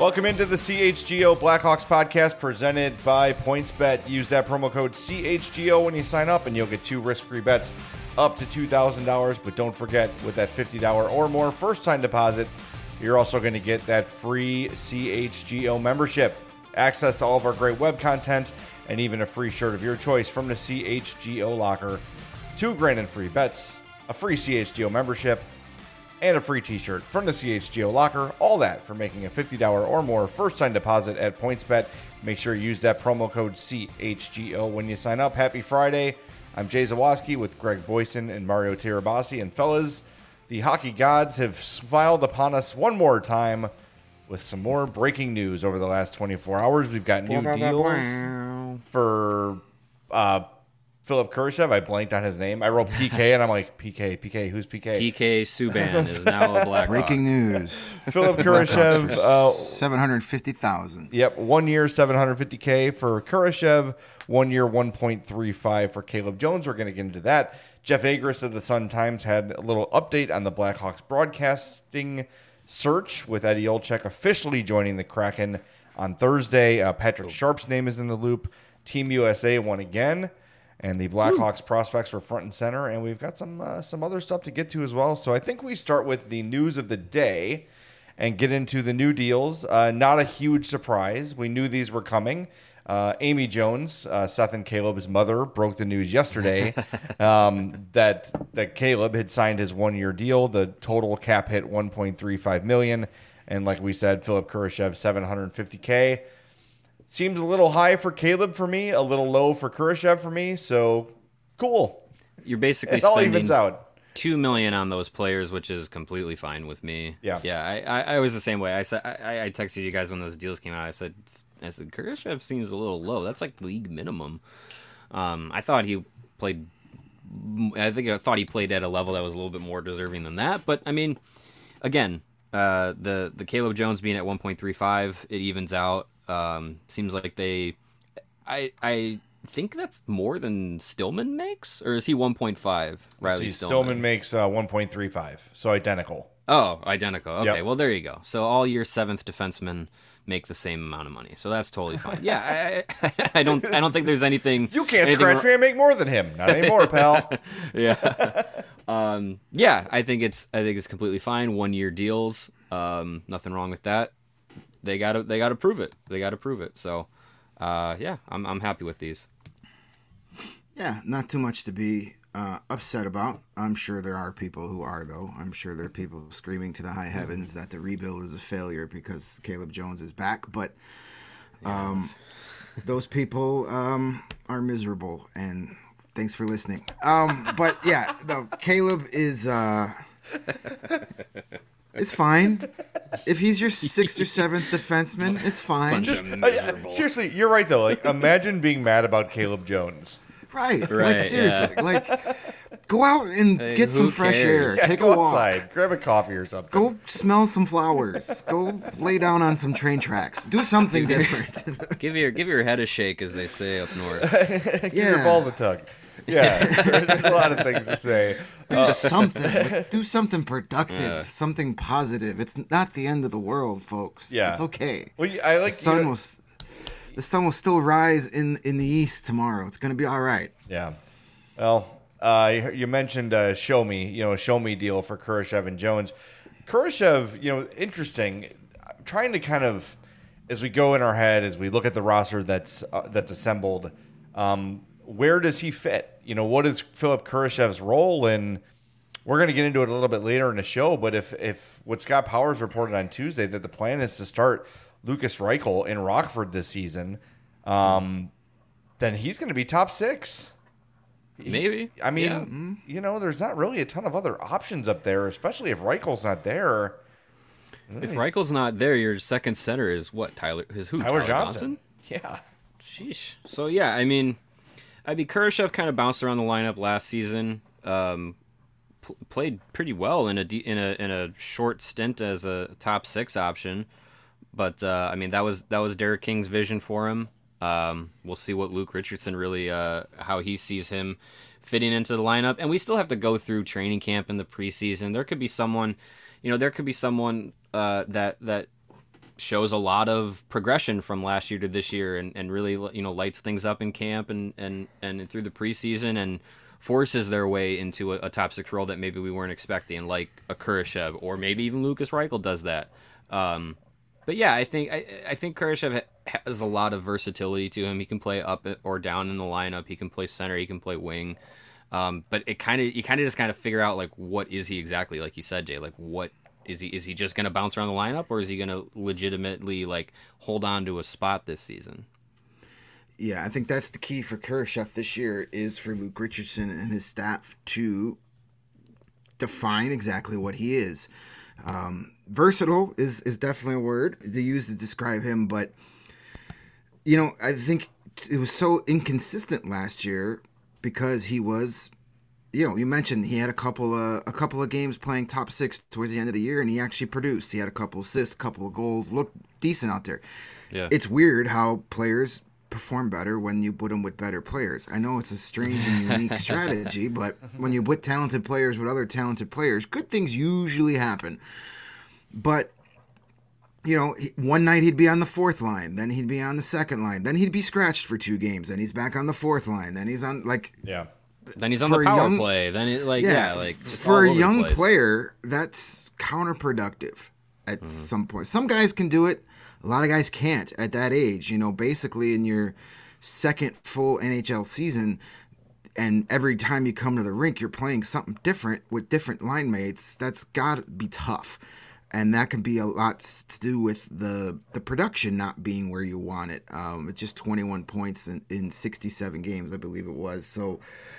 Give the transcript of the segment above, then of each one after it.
Welcome into the CHGO Blackhawks podcast presented by PointsBet. Use that promo code CHGO when you sign up and you'll get 2 risk-free bets up to $2,000. But don't forget, with that $50 or more first-time deposit, you're also going to get that free CHGO membership, access to all of our great web content, and even a free shirt of your choice from the CHGO locker. $2,000 in free bets, a free CHGO membership, and a free t-shirt from the CHGO locker. All that for making a $50 or more first-time deposit at PointsBet. Make sure you use that promo code CHGO when you sign up. Happy Friday. I'm Jay Zawaski with Greg Boyson and Mario Tirabassi. And fellas, the hockey gods have smiled upon us one more time with some more breaking news over the last 24 hours. We've got new deals for Philip Kurashev. I blanked on his name. I wrote PK, and I'm like, PK, who's PK? PK Subban is now a Blackhawk. Breaking news. Philip Kurashev. $750,000. Yep, 1 year, $750K for Kurashev. 1 year, $1.35 for Caleb Jones. We're going to get into that. Jeff Agris of the Sun-Times had a little update on the Blackhawks broadcasting search, with Eddie Olczyk officially joining the Kraken on Thursday. Patrick Sharp's name is in the loop. Team USA won again, and the Blackhawks prospects were front and center, and we've got some other stuff to get to as well. So I think we start with the news of the day and get into the new deals. Not a huge surprise. We knew these were coming. Amy Jones, Seth and Caleb's mother, broke the news yesterday that Caleb had signed his 1-year deal. The total cap hit $1.35 million, and like we said, Philip Kurashev $750K. Seems a little high for Caleb for me, a little low for Kurashev for me. So cool. You're basically it all spending evens out. $2 million on those players, which is completely fine with me. Yeah. I was the same way. I said I texted you guys when those deals came out. I said Kurashev seems a little low. That's like league minimum. I thought he played at a level that was a little bit more deserving than that. But I mean, again, the Caleb Jones being at 1.35, it evens out. Seems like I think that's more than Stillman makes, or is he 1.5? Riley Stillman makes 1.35, so identical. Oh, identical. Okay, Yep. Well, there you go. So all your 7th defensemen make the same amount of money, so that's totally fine. Yeah, I don't think there's anything. You can't scratch me and make more than him. Not anymore, pal. Yeah. Yeah, I think it's completely fine. 1-year deals. Nothing wrong with that. They gotta prove it. So, yeah, I'm happy with these. Yeah, not too much to be upset about. I'm sure there are people who are, though. I'm sure there are people screaming to the high heavens that the rebuild is a failure because Caleb Jones is back. But those people are miserable, and thanks for listening. But yeah, no, Caleb is it's fine. If he's your 6th or 7th defenseman, it's fine. Seriously, you're right though. Like, imagine being mad about Caleb Jones. Right. Like, seriously. Yeah. Like, go out and get some fresh air. Yeah, take go a walk. Outside, grab a coffee or something. Go smell some flowers. Go lay down on some train tracks. Do something different. Give your head a shake, as they say up north. Give your balls a tug. Yeah, there's a lot of things to say. Do something. Do something productive. Something positive. It's not the end of the world, folks. Yeah, it's okay. Well, I like the sun will still rise in the east tomorrow. It's going to be all right. Yeah. Well, you mentioned show me deal for Kurashev and Jones. Kurashev, interesting. I'm trying to kind of, as we go in our head, as we look at the roster that's assembled, where does he fit? What is Philip Kurashev's role? And we're going to get into it a little bit later in the show. But if what Scott Powers reported on Tuesday, that the plan is to start Lukas Reichel in Rockford this season, then he's going to be top 6. Maybe. I mean, there's not really a ton of other options up there, especially if Reichel's not there. If Reichel's not there, your second center is what? Tyler Johnson? Yeah. Sheesh. So, yeah, I mean, Kurashev kind of bounced around the lineup last season. Played pretty well in a short stint as a top 6 option. But that was Derek King's vision for him. We'll see what Luke Richardson really how he sees him fitting into the lineup, and we still have to go through training camp in the preseason. There could be someone, that shows a lot of progression from last year to this year, and really lights things up in camp and through the preseason, and forces their way into a top 6 role that maybe we weren't expecting, like a Kurashev, or maybe even Lucas Reichel does that. But yeah, I think Kurashev has a lot of versatility to him. He can play up or down in the lineup. He can play center. He can play wing. But you kind of just figure out, like, what is he exactly? Like you said, Jay, like, what is he? Is he just going to bounce around the lineup, or is he going to legitimately, like, hold on to a spot this season? Yeah, I think that's the key for Kurashev this year, is for Luke Richardson and his staff to define exactly what he is. Versatile is definitely a word they use to describe him, but I think it was so inconsistent last year because he was, you mentioned he had a couple of games playing top 6 towards the end of the year, and he actually produced. He had a couple assists, couple of goals, looked decent out there. Yeah, it's weird how players perform better when you put them with better players. I know it's a strange and unique strategy, but when you put talented players with other talented players, good things usually happen. But one night he'd be on the 4th line, then he'd be on the 2nd line, then he'd be scratched for 2 games, then he's back on the 4th line, then he's on then he's on the power play, then for a young player, that's counterproductive at some point. Some guys can do it. A lot of guys can't at that age. Basically in your 2nd full NHL season, and every time you come to the rink, you're playing something different with different line mates. That's got to be tough. And that can be a lot to do with the production not being where you want it. It's just 21 points in 67 games, I believe it was. So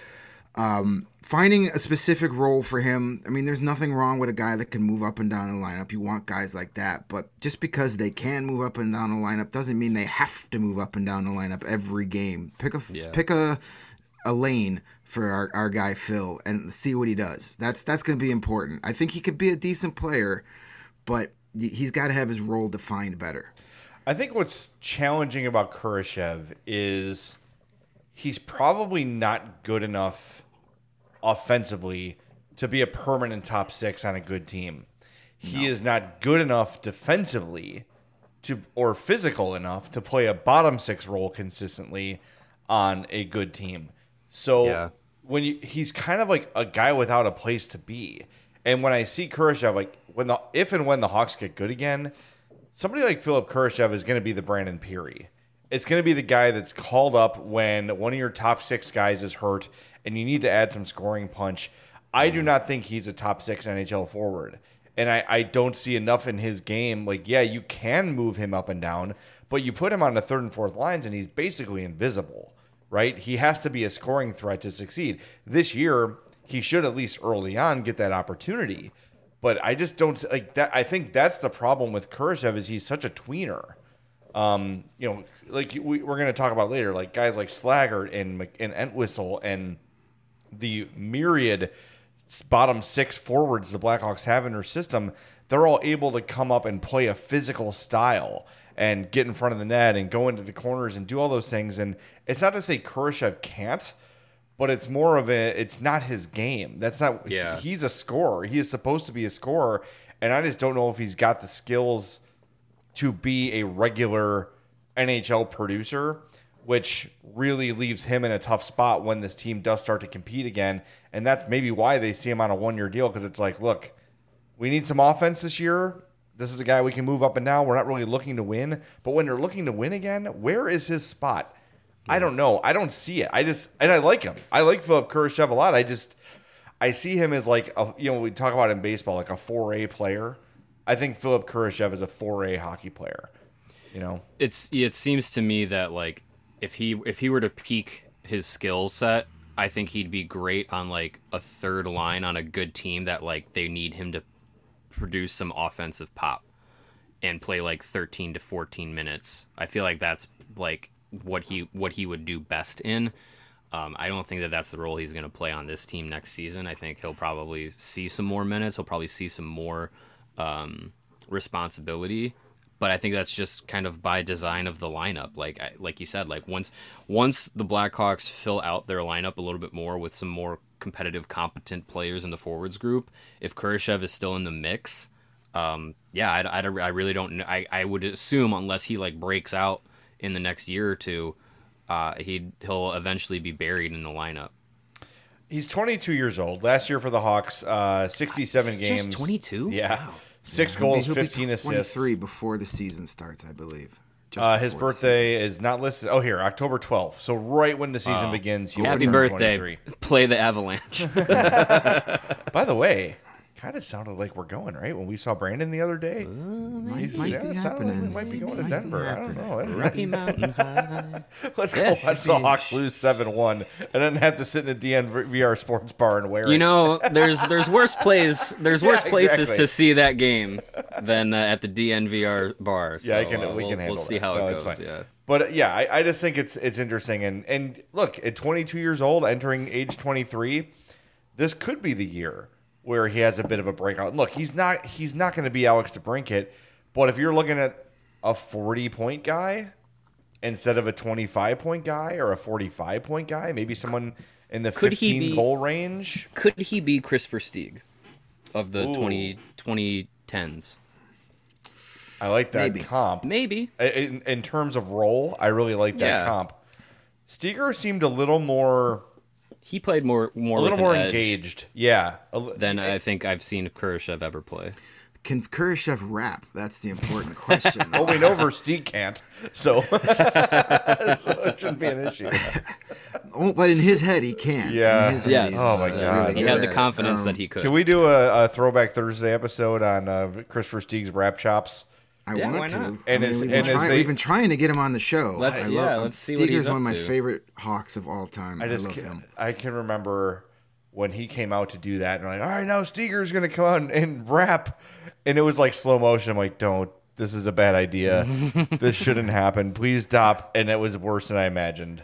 finding a specific role for him, I mean, there's nothing wrong with a guy that can move up and down the lineup. You want guys like that. But just because they can move up and down the lineup doesn't mean they have to move up and down the lineup every game. Pick a lane for our guy Phil and see what he does. That's going to be important. I think he could be a decent player, but he's got to have his role defined better. I think what's challenging about Kurashev is he's probably not good enough offensively to be a permanent top 6 on a good team. He is not good enough defensively or physical enough to play a bottom 6 role consistently on a good team. So he's kind of like a guy without a place to be. And when I see Kurashev, like if and when the Hawks get good again, somebody like Philip Kurashev is going to be the Brandon Peary. It's going to be the guy that's called up when one of your top 6 guys is hurt and you need to add some scoring punch. I do not think he's a top 6 NHL forward. And I don't see enough in his game. Like, yeah, you can move him up and down, but you put him on the 3rd and 4th lines and he's basically invisible, right? He has to be a scoring threat to succeed. This year, he should at least early on get that opportunity. But I just don't like that. I think that's the problem with Kurashev is he's such a tweener. Like we're going to talk about later, like guys like Slaggert and Entwistle and the myriad bottom 6 forwards the Blackhawks have in their system, they're all able to come up and play a physical style and get in front of the net and go into the corners and do all those things. And it's not to say Kurashev can't, but it's more of it's not his game. That's not, he's a scorer. He is supposed to be a scorer. And I just don't know if he's got the skills to be a regular NHL producer, which really leaves him in a tough spot when this team does start to compete again. And that's maybe why they see him on a 1-year deal, because it's like, look, we need some offense this year. This is a guy we can move up and down. We're not really looking to win. But when they're looking to win again, where is his spot? I don't know. I don't see it. And I like him. I like Philip Kurashev a lot. I see him as like, we talk about in baseball, like a 4A player. I think Philip Kurashev is a 4A hockey player. It seems to me that like if he were to peak his skill set, I think he'd be great on like a 3rd line on a good team that like they need him to produce some offensive pop and play like 13 to 14 minutes. I feel like that's like what he would do best in. I don't think that that's the role he's going to play on this team next season. I think he'll probably see some more minutes. He'll probably see some more responsibility. But I think that's just kind of by design of the lineup. Like you said, like once the Blackhawks fill out their lineup a little bit more with some more competitive, competent players in the forwards group, if Kurashev is still in the mix, yeah, I really don't know. I would assume unless he like breaks out in the next year or two, he'll eventually be buried in the lineup. He's 22 years old. Last year for the Hawks, 67 games. Just 22? Yeah. Wow. 6 goals, He'll 15 be assists. 23 before the season starts, I believe. His birthday is not listed. Oh, here, October 12th. So right when the season begins, he will Happy turn birthday. 23. Play the Avalanche. By the way, kind of sounded like we're going, right? When we saw Brandon the other day. Might be It sounded like we happening. might be going to Might be Denver. I don't happening. know. Rocky Mountain High. Let's Yeah, go watch the Hawks lose 7-1 and then have to sit in a DNVR sports bar and wear it. You know, there's worse plays. There's worse places exactly. to see that game than at the DNVR bar. So, Yeah, we can handle We'll see that. how No, it it's goes. fine. Yeah. But yeah, I just think it's interesting. And look, at 22 years old, entering age 23, this could be the year where he has a bit of a breakout. Look, he's not going to be Alex DeBrincat, but if you're looking at a 40-point guy instead of a 25-point guy or a 45-point guy, maybe someone in the 15-goal range. Could he be Chris Versteeg of the Ooh. 2010s? I like that Maybe. comp. Maybe. In terms of role, I really like that Yeah. comp. Steger seemed a little more He played more a little with more an edge engaged. Yeah. than I think I've seen Kurashev ever play. Can Kurashev rap? That's the important question. Well, we know Versteeg can't, so, so it shouldn't be an issue. Oh, but in his head, he can. Yeah. In his head, Yes. he's, Oh, my God. really He good had the at it. confidence that he could. Can we do a Throwback Thursday episode on Chris Versteeg's rap chops? I Yeah, why want to. not? And as- we've, and been as trying, they- we've been trying to get him on the show. Let's- I yeah, love, let's see what he's Steger's one of up my to. favorite Hawks of all time. I love him. I can remember when he came out to do that, and I'm like, all right, now Steger's going to come out and rap. And it was like slow motion. I'm like, don't. This is a bad idea. This shouldn't happen. Please stop. And it was worse than I imagined.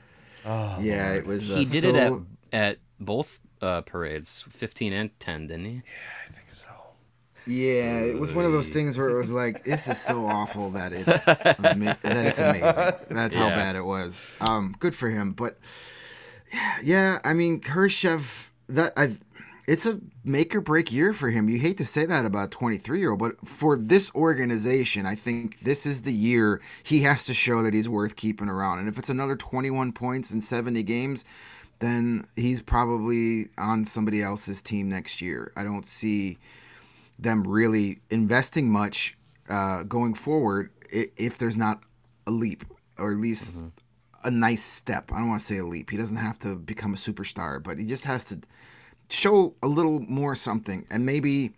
Yeah, it was. He did it at both parades, 15 and 10, didn't he? I think so. Yeah, it was one of those things where it was like, this is so awful that it's amazing. That's how Yeah. bad it was. Good for him, but yeah, I mean, Kurashev, it's a make or break year for him. You hate to say that about a 23-year-old, but for this organization, I think this is the year he has to show that he's worth keeping around. And if it's another 21 points in 70 games, then he's probably on somebody else's team next year. I don't see them really investing much going forward if there's not a leap, or at least a nice step. I don't want to say a leap. He doesn't have to become a superstar, but he just has to show a little more something, and maybe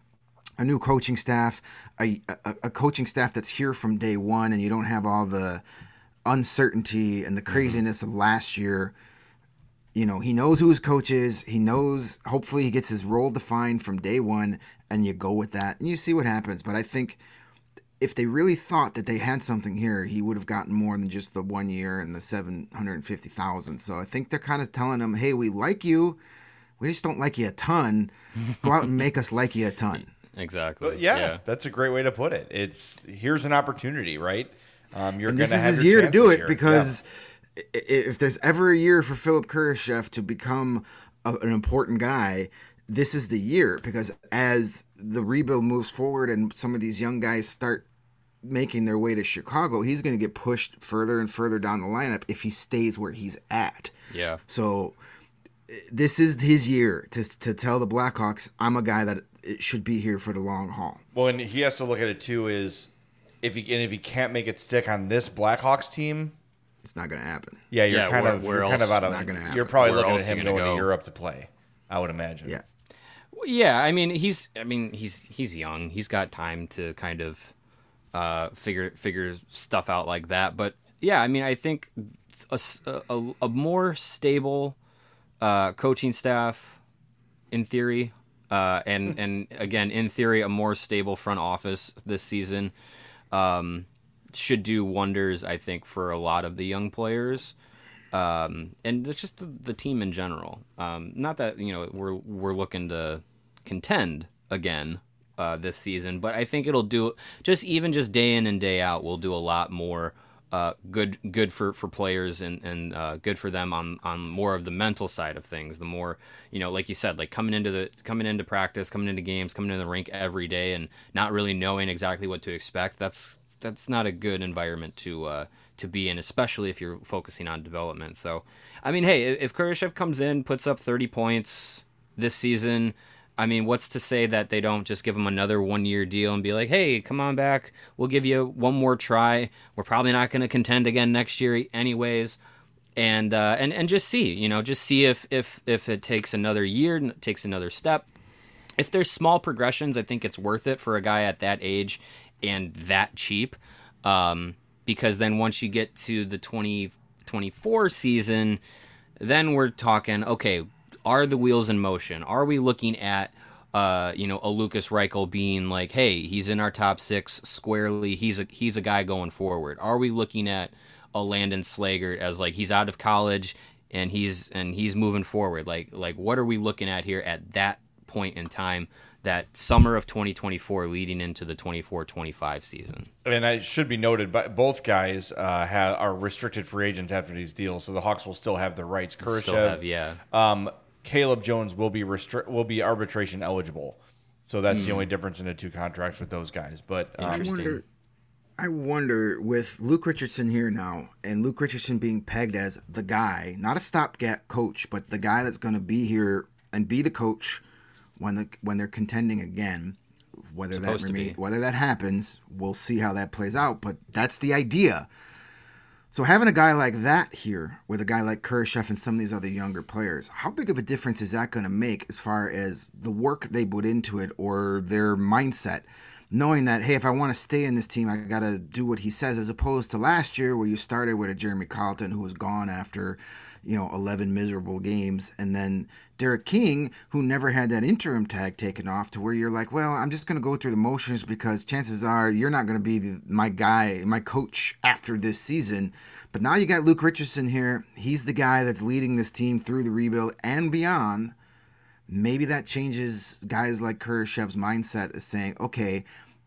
a new coaching staff, a coaching staff that's here from day one, and you don't have all the uncertainty and the craziness of last year. You know, he knows who his coach is. He knows, hopefully he gets his role defined from day one, and you go with that, and you see what happens. But I think if they really thought that they had something here, he would have gotten more than just the 1 year and the $750,000. So I think they're kind of telling him, hey, we like you. We just don't like you a ton. Go out and make us like you a ton. Exactly. Yeah, that's a great way to put it. Here's an opportunity, right? You're going This to is have his your year to do chances it here. because if there's ever a year for Philip Kurashev to become an important guy, this is the year, because as the rebuild moves forward and some of these young guys start making their way to Chicago, he's going to get pushed further and further down the lineup if he stays where he's at. Yeah. So this is his year to tell the Blackhawks, I'm a guy that should be here for the long haul. Well, and he has to look at it too is if he can't make it stick on this Blackhawks team, It's not going to happen. yeah, you're Yeah, kind where- of where out else- of. Not gonna happen. You're probably Where looking at else are him you gonna going to go? Europe to play. I would imagine. Yeah. Yeah, I mean he's young. He's got time to kind of figure stuff out like that. But yeah, I mean I think a more stable coaching staff in theory, and again in theory a more stable front office this season should do wonders. I think for a lot of the young players. And it's just the team in general. Not that we're looking to contend again this season, but I think it'll do just day in and day out. We'll do a lot more good for players and good for them on more of the mental side of things. The more, like you said, like coming into practice, coming into games, coming into the rink every day, and not really knowing exactly what to expect. That's not a good environment to be in, especially if you're focusing on development. So, I mean, hey, if Kurashev comes in, puts up 30 points this season, I mean, what's to say that they don't just give him another 1-year deal and be like, hey, come on back. We'll give you one more try. We're probably not going to contend again next year anyways. And just see, just see if it takes another year, takes another step. If there's small progressions, I think it's worth it for a guy at that age and that cheap. Because then once you get to the 2024 season, then we're talking, okay, are the wheels in motion? Are we looking at, a Lucas Reichel being like, hey, he's in our top 6 squarely. He's a guy going forward. Are we looking at a Landon Slaggert as like he's out of college and he's moving forward? Like what are we looking at here at that point in time? That summer of 2024 leading into the 24-25 season. And it should be noted, but both guys are restricted free agents after these deals, so the Hawks will still have the rights. Kurashev, Caleb Jones will be arbitration eligible, so that's the only difference in the two contracts with those guys. But interesting. I wonder with Luke Richardson here now, and Luke Richardson being pegged as the guy, not a stopgap coach, but the guy that's going to be here and be the coach when they're contending again. Whether that happens, we'll see how that plays out. But that's the idea. So having a guy like that here, with a guy like Kurashev and some of these other younger players, how big of a difference is that going to make as far as the work they put into it or their mindset? Knowing that, hey, if I want to stay in this team, I got to do what he says, as opposed to last year where you started with a Jeremy Colleton who was gone after 11 miserable games, and then Derek King, who never had that interim tag taken off, to where you're like, well, I'm just going to go through the motions because chances are you're not going to be my coach after this season. But now you got Luke Richardson here. He's the guy that's leading this team through the rebuild and beyond. Maybe that changes guys like Kurashev's mindset as saying, okay,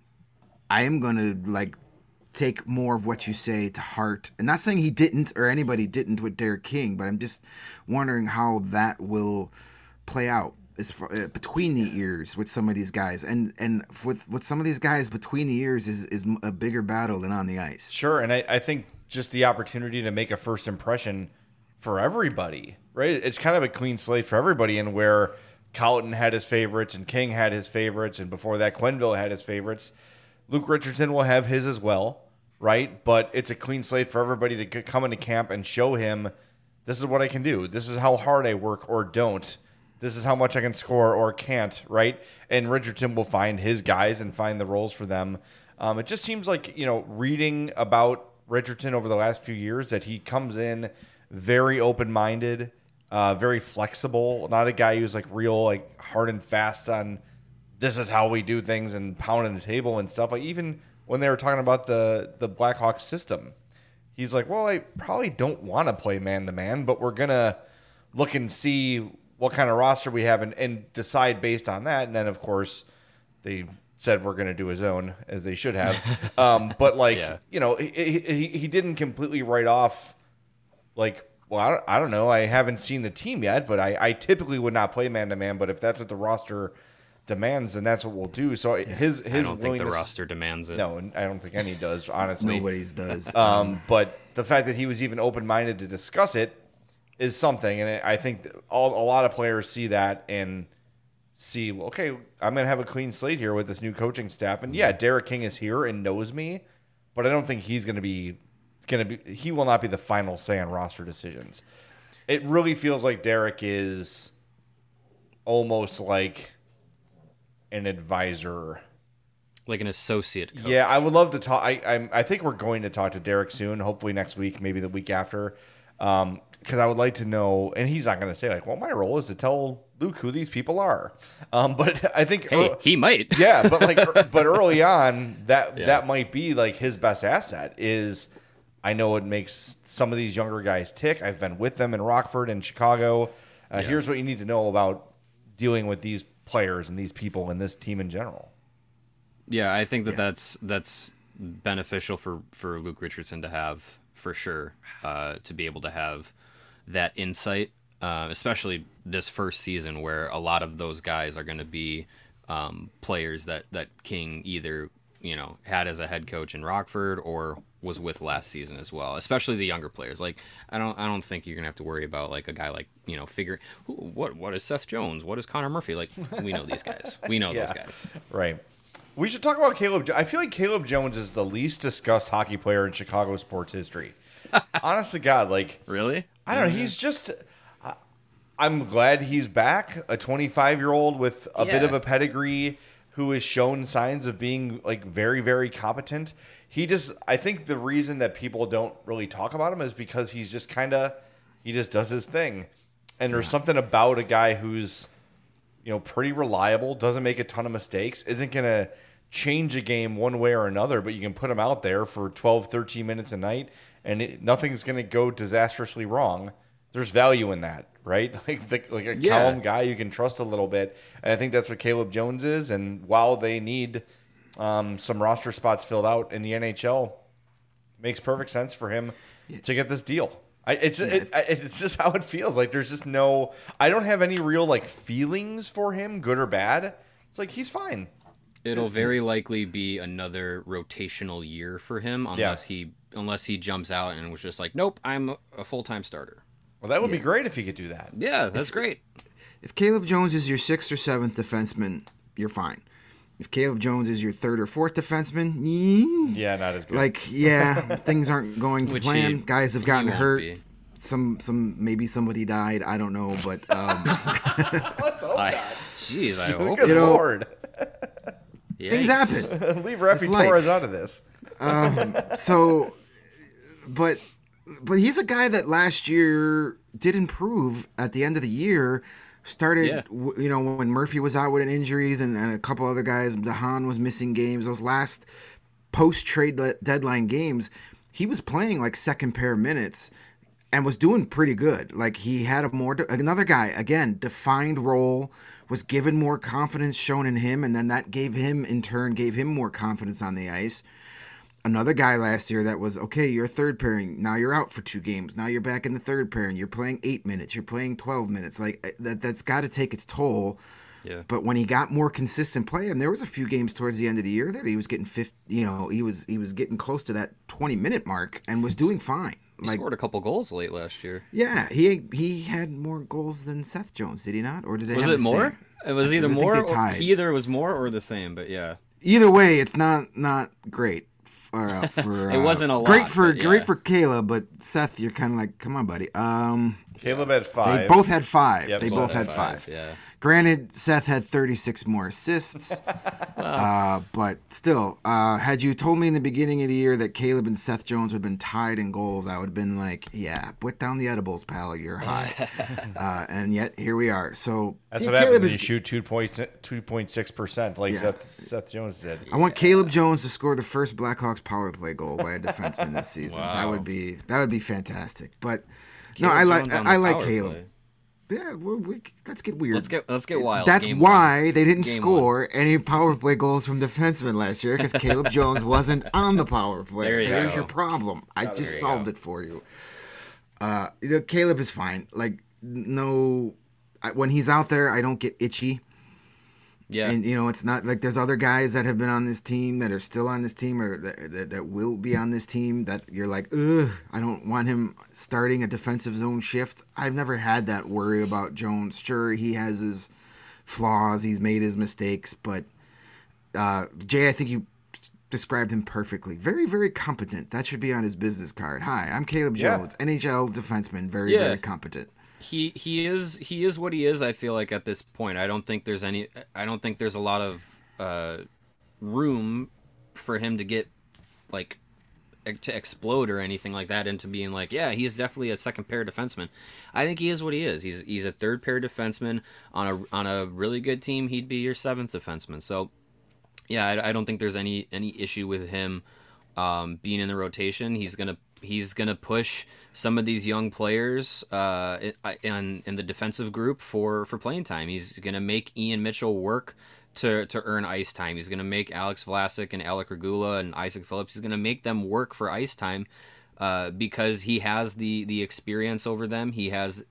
I am going to take more of what you say to heart. And not saying he didn't or anybody didn't with Derek King, but I'm just wondering how that will play out as far, between the ears with some of these guys. And with some of these guys, between the ears is a bigger battle than on the ice. Sure, and I think just the opportunity to make a first impression for everybody, right? It's kind of a clean slate for everybody, and where Colleton had his favorites and King had his favorites, and before that Quenneville had his favorites, Luke Richardson will have his as well. Right, but it's a clean slate for everybody to come into camp and show him, this is what I can do. This is how hard I work or don't. This is how much I can score or can't, right? And Richardson will find his guys and find the roles for them. It just seems like, reading about Richardson over the last few years, that he comes in very open-minded, very flexible, not a guy who's real hard and fast on this is how we do things and pounding the table and stuff. Even when they were talking about the Blackhawks system, he's like, well, I probably don't want to play man-to-man, but we're going to look and see what kind of roster we have and decide based on that. And then, of course, they said we're going to do his own, as they should have. But, he didn't completely write off, well, I don't know. I haven't seen the team yet, but I typically would not play man-to-man. But if that's what the roster demands, and that's what we'll do. So his I don't think the roster demands it. No, I don't think any does, honestly. Nobody's does. But the fact that he was even open-minded to discuss it is something, and I think a lot of players see that and see, okay, I'm going to have a clean slate here with this new coaching staff. And yeah, Derek King is here and knows me, but I don't think he's going to be he will not be the final say on roster decisions. It really feels like Derek is almost like an advisor, like an associate coach. Yeah, I would love to talk. I think we're going to talk to Derek soon, hopefully next week, maybe the week after, because I would like to know, and he's not going to say well, my role is to tell Luke who these people are, but I think he might. Yeah, but but early on that might be his best asset is, I know it makes some of these younger guys tick. I've been with them in Rockford and Chicago. Here's what you need to know about dealing with these players and these people and this team in general. Yeah, I think that's beneficial for Luke Richardson to have, for sure, to be able to have that insight, especially this first season where a lot of those guys are going to be players that King either, had as a head coach in Rockford or was with last season as well, especially the younger players. Like, I don't think you're going to have to worry about like a guy like, figuring what is Seth Jones? What is Connor Murphy? Like, we know these guys. We know those guys. Right. We should talk about Caleb. I feel like Caleb Jones is the least discussed hockey player in Chicago sports history. Honest to God, like, Really? I don't know. He's just. I'm glad he's back. A 25-year-old with a bit of a pedigree who has shown signs of being like very, very competent. I think the reason that people don't really talk about him is because he's just he just does his thing. And there's something about a guy who's, pretty reliable, doesn't make a ton of mistakes, isn't going to change a game one way or another, but you can put him out there for 12, 13 minutes a night and nothing's going to go disastrously wrong. There's value in that, right? Like a calm guy you can trust a little bit. And I think that's what Caleb Jones is. And while they need some roster spots filled out in the NHL, it makes perfect sense for him to get this deal. It's just how it feels. Like there's just I don't have any real like feelings for him, good or bad. It's like he's fine. It'll very likely be another rotational year for him unless he jumps out and was just like, nope, I'm a full-time starter. Well, that would be great if he could do that. Yeah, that's great. If Caleb Jones is your 6th or 7th defenseman, you're fine. If Caleb Jones is your 3rd or 4th defenseman, not as good. Like, things aren't going to plan. Guys have gotten hurt. Be. Some maybe somebody died. I don't know, but Let's hope not. Jeez, I hope. Good Lord. Things happen. Leave Rafi Torres out of this. But he's a guy that last year did improve at the end of the year. Started, when Murphy was out with injuries and a couple other guys, DeHaan was missing games. Those last post-trade deadline games, he was playing like second pair minutes and was doing pretty good. Like he had another guy, again, defined role, was given more confidence shown in him, and then that gave him more confidence on the ice. Another guy last year that was, okay, you're third pairing. Now you're out for 2 games. Now you're back in the third pairing. You're playing 8 minutes. You're playing 12 minutes. Like that's got to take its toll. Yeah. But when he got more consistent play, and there was a few games towards the end of the year that he was getting he was getting close to that 20-minute mark and was doing fine. He scored a couple goals late last year. Yeah, he had more goals than Seth Jones, did he not? Or did they? Was have it the more? Same? It was either more. He either was more or the same. But yeah. Either way, it's not great. For it wasn't a lot. Great for Caleb, but Seth, you're kind of like, come on, buddy. Caleb had 5. They both had 5. Yep, they both had 5. Yeah. Granted, Seth had 36 more assists, but still, had you told me in the beginning of the year that Caleb and Seth Jones would have been tied in goals, I would have been like, yeah, put down the edibles, pal, you're high. And yet, here we are. So that's what happens when you shoot 2.6%, like Seth Jones did. I want Caleb Jones to score the first Blackhawks power play goal by a defenseman this season. Wow. That would be fantastic. But Caleb I like power Caleb. play. Yeah, let's get weird. Let's get wild. That's Game why one. they didn't Game score any power play goals from defensemen last year, because Caleb Jones wasn't on the power play. There's your problem. I just solved it for you. Caleb is fine. Like when he's out there, I don't get itchy. Yeah. And, it's not like there's other guys that have been on this team that are still on this team or that will be on this team that you're like, ugh, I don't want him starting a defensive zone shift. I've never had that worry about Jones. Sure, he has his flaws. He's made his mistakes. But, Jay, I think you described him perfectly. Very, very competent. That should be on his business card. Hi, I'm Caleb Jones, NHL defenseman. Very, very competent. He is what he is. I feel like at this point, I don't think there's a lot of room for him to get like to explode or anything like that into being like, yeah, he's definitely a second pair defenseman. I think he is what he is. He's a third pair defenseman on a really good team. He'd be your 7th defenseman. So yeah, I don't think there's any issue with him being in the rotation. He's gonna push some of these young players in the defensive group for playing time. He's gonna make Ian Mitchell work to earn ice time. He's going to make Alex Vlasic and Alec Regula and Isaac Phillips. He's going to make them work for ice time because he has the experience over them. He has,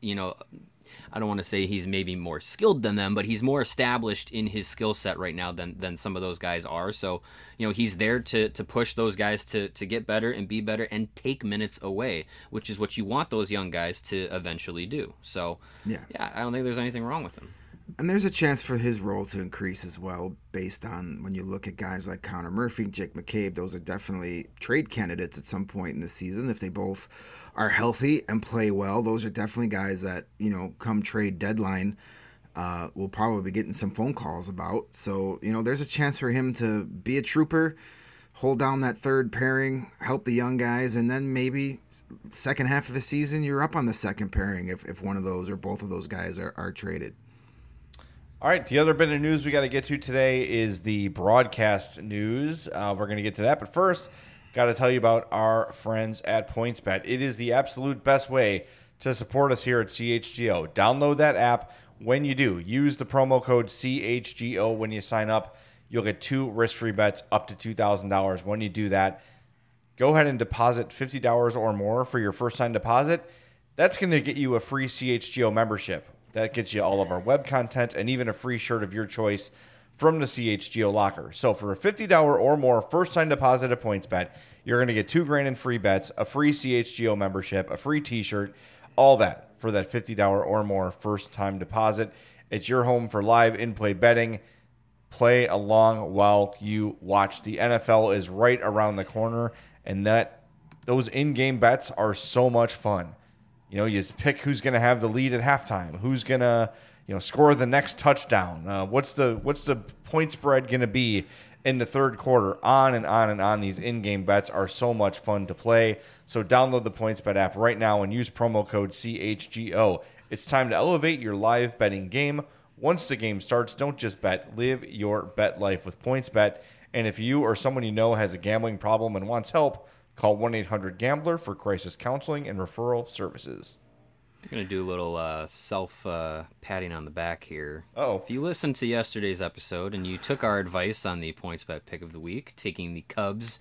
I don't want to say he's maybe more skilled than them, but he's more established in his skill set right now than some of those guys are. So, he's there to push those guys to get better and be better and take minutes away, which is what you want those young guys to eventually do. So, yeah, I don't think there's anything wrong with him. And there's a chance for his role to increase as well, based on when you look at guys like Connor Murphy, Jake McCabe. Those are definitely trade candidates at some point in the season if they both are healthy and play well. Those are definitely guys that, come trade deadline, we'll probably be getting some phone calls about. So, there's a chance for him to be a trooper, hold down that third pairing, help the young guys, and then maybe second half of the season, you're up on the second pairing if one of those or both of those guys are traded. All right, the other bit of news we got to get to today is the broadcast news. We're going to get to that, but first, got to tell you about our friends at PointsBet. It is the absolute best way to support us here at CHGO. Download that app. When you do, use the promo code CHGO when you sign up. You'll get 2 risk-free bets up to $2,000. When you do that, go ahead and deposit $50 or more for your first-time deposit. That's going to get you a free CHGO membership. That gets you all of our web content and even a free shirt of your choice from the CHGO locker. So for a $50 or more first-time deposit at PointsBet, you're going to get $2,000 in free bets, a free CHGO membership, a free T-shirt, all that for that $50 or more first-time deposit. It's your home for live in-play betting. Play along while you watch. The NFL is right around the corner, and those in-game bets are so much fun. You just pick who's going to have the lead at halftime, who's going to, score the next touchdown. What's the point spread going to be in the third quarter? On and on and on. These in-game bets are so much fun to play. So download the PointsBet app right now and use promo code CHGO. It's time to elevate your live betting game. Once the game starts, don't just bet. Live your bet life with PointsBet. And if you or someone you know has a gambling problem and wants help, call 1-800-GAMBLER for crisis counseling and referral services. I'm going to do a little self-patting on the back here. Oh. If you listened to yesterday's episode and you took our advice on the PointsBet pick of the week, taking the Cubs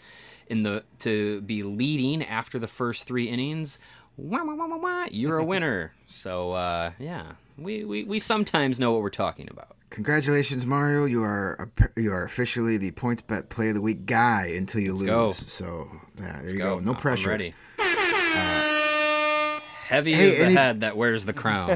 to be leading after the first 3 innings, you're a winner. So, we sometimes know what we're talking about. Congratulations, Mario! You are officially the PointsBet Play of the Week guy until you lose. Go. So there you go. No pressure. I'm ready. Heavy is the head that wears the crown.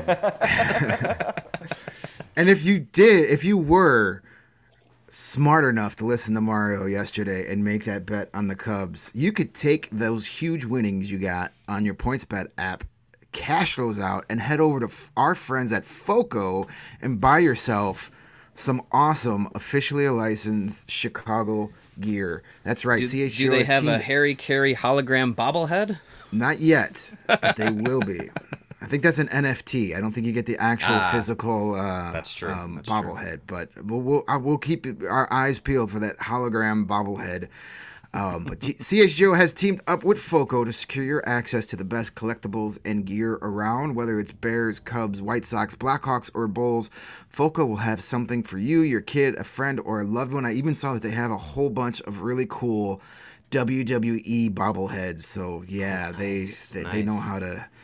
And if you were smart enough to listen to Mario yesterday and make that bet on the Cubs, you could take those huge winnings you got on your PointsBet app, cash those out, and head over to our friends at FOCO and buy yourself some awesome officially licensed Chicago gear. That's right. CHGO. Do they have a Harry Carey hologram bobblehead? Not yet, but they will be. I think that's an NFT. I don't think you get the actual physical that's true. Bobblehead, but we'll keep our eyes peeled for that hologram bobblehead. But CHGO has teamed up with FOCO to secure your access to the best collectibles and gear around. Whether it's Bears, Cubs, White Sox, Blackhawks, or Bulls, FOCO will have something for you, your kid, a friend, or a loved one. I even saw that they have a whole bunch of really cool WWE bobbleheads. So yeah, they know how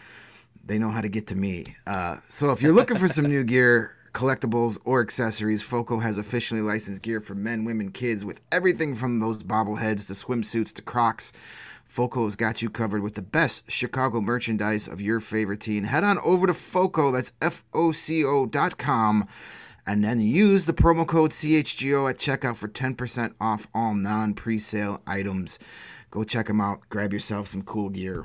to get to me. So if you're looking for some new gear, collectibles, or accessories, FOCO has officially licensed gear for men, women, kids, with everything from those bobbleheads to swimsuits to Crocs. FOCO has got you covered with the best Chicago merchandise of your favorite team. Head on over to FOCO, that's FOCO.com, and then use the promo code CHGO at checkout for 10% off all non-presale items. Go check them out. Grab yourself some cool gear.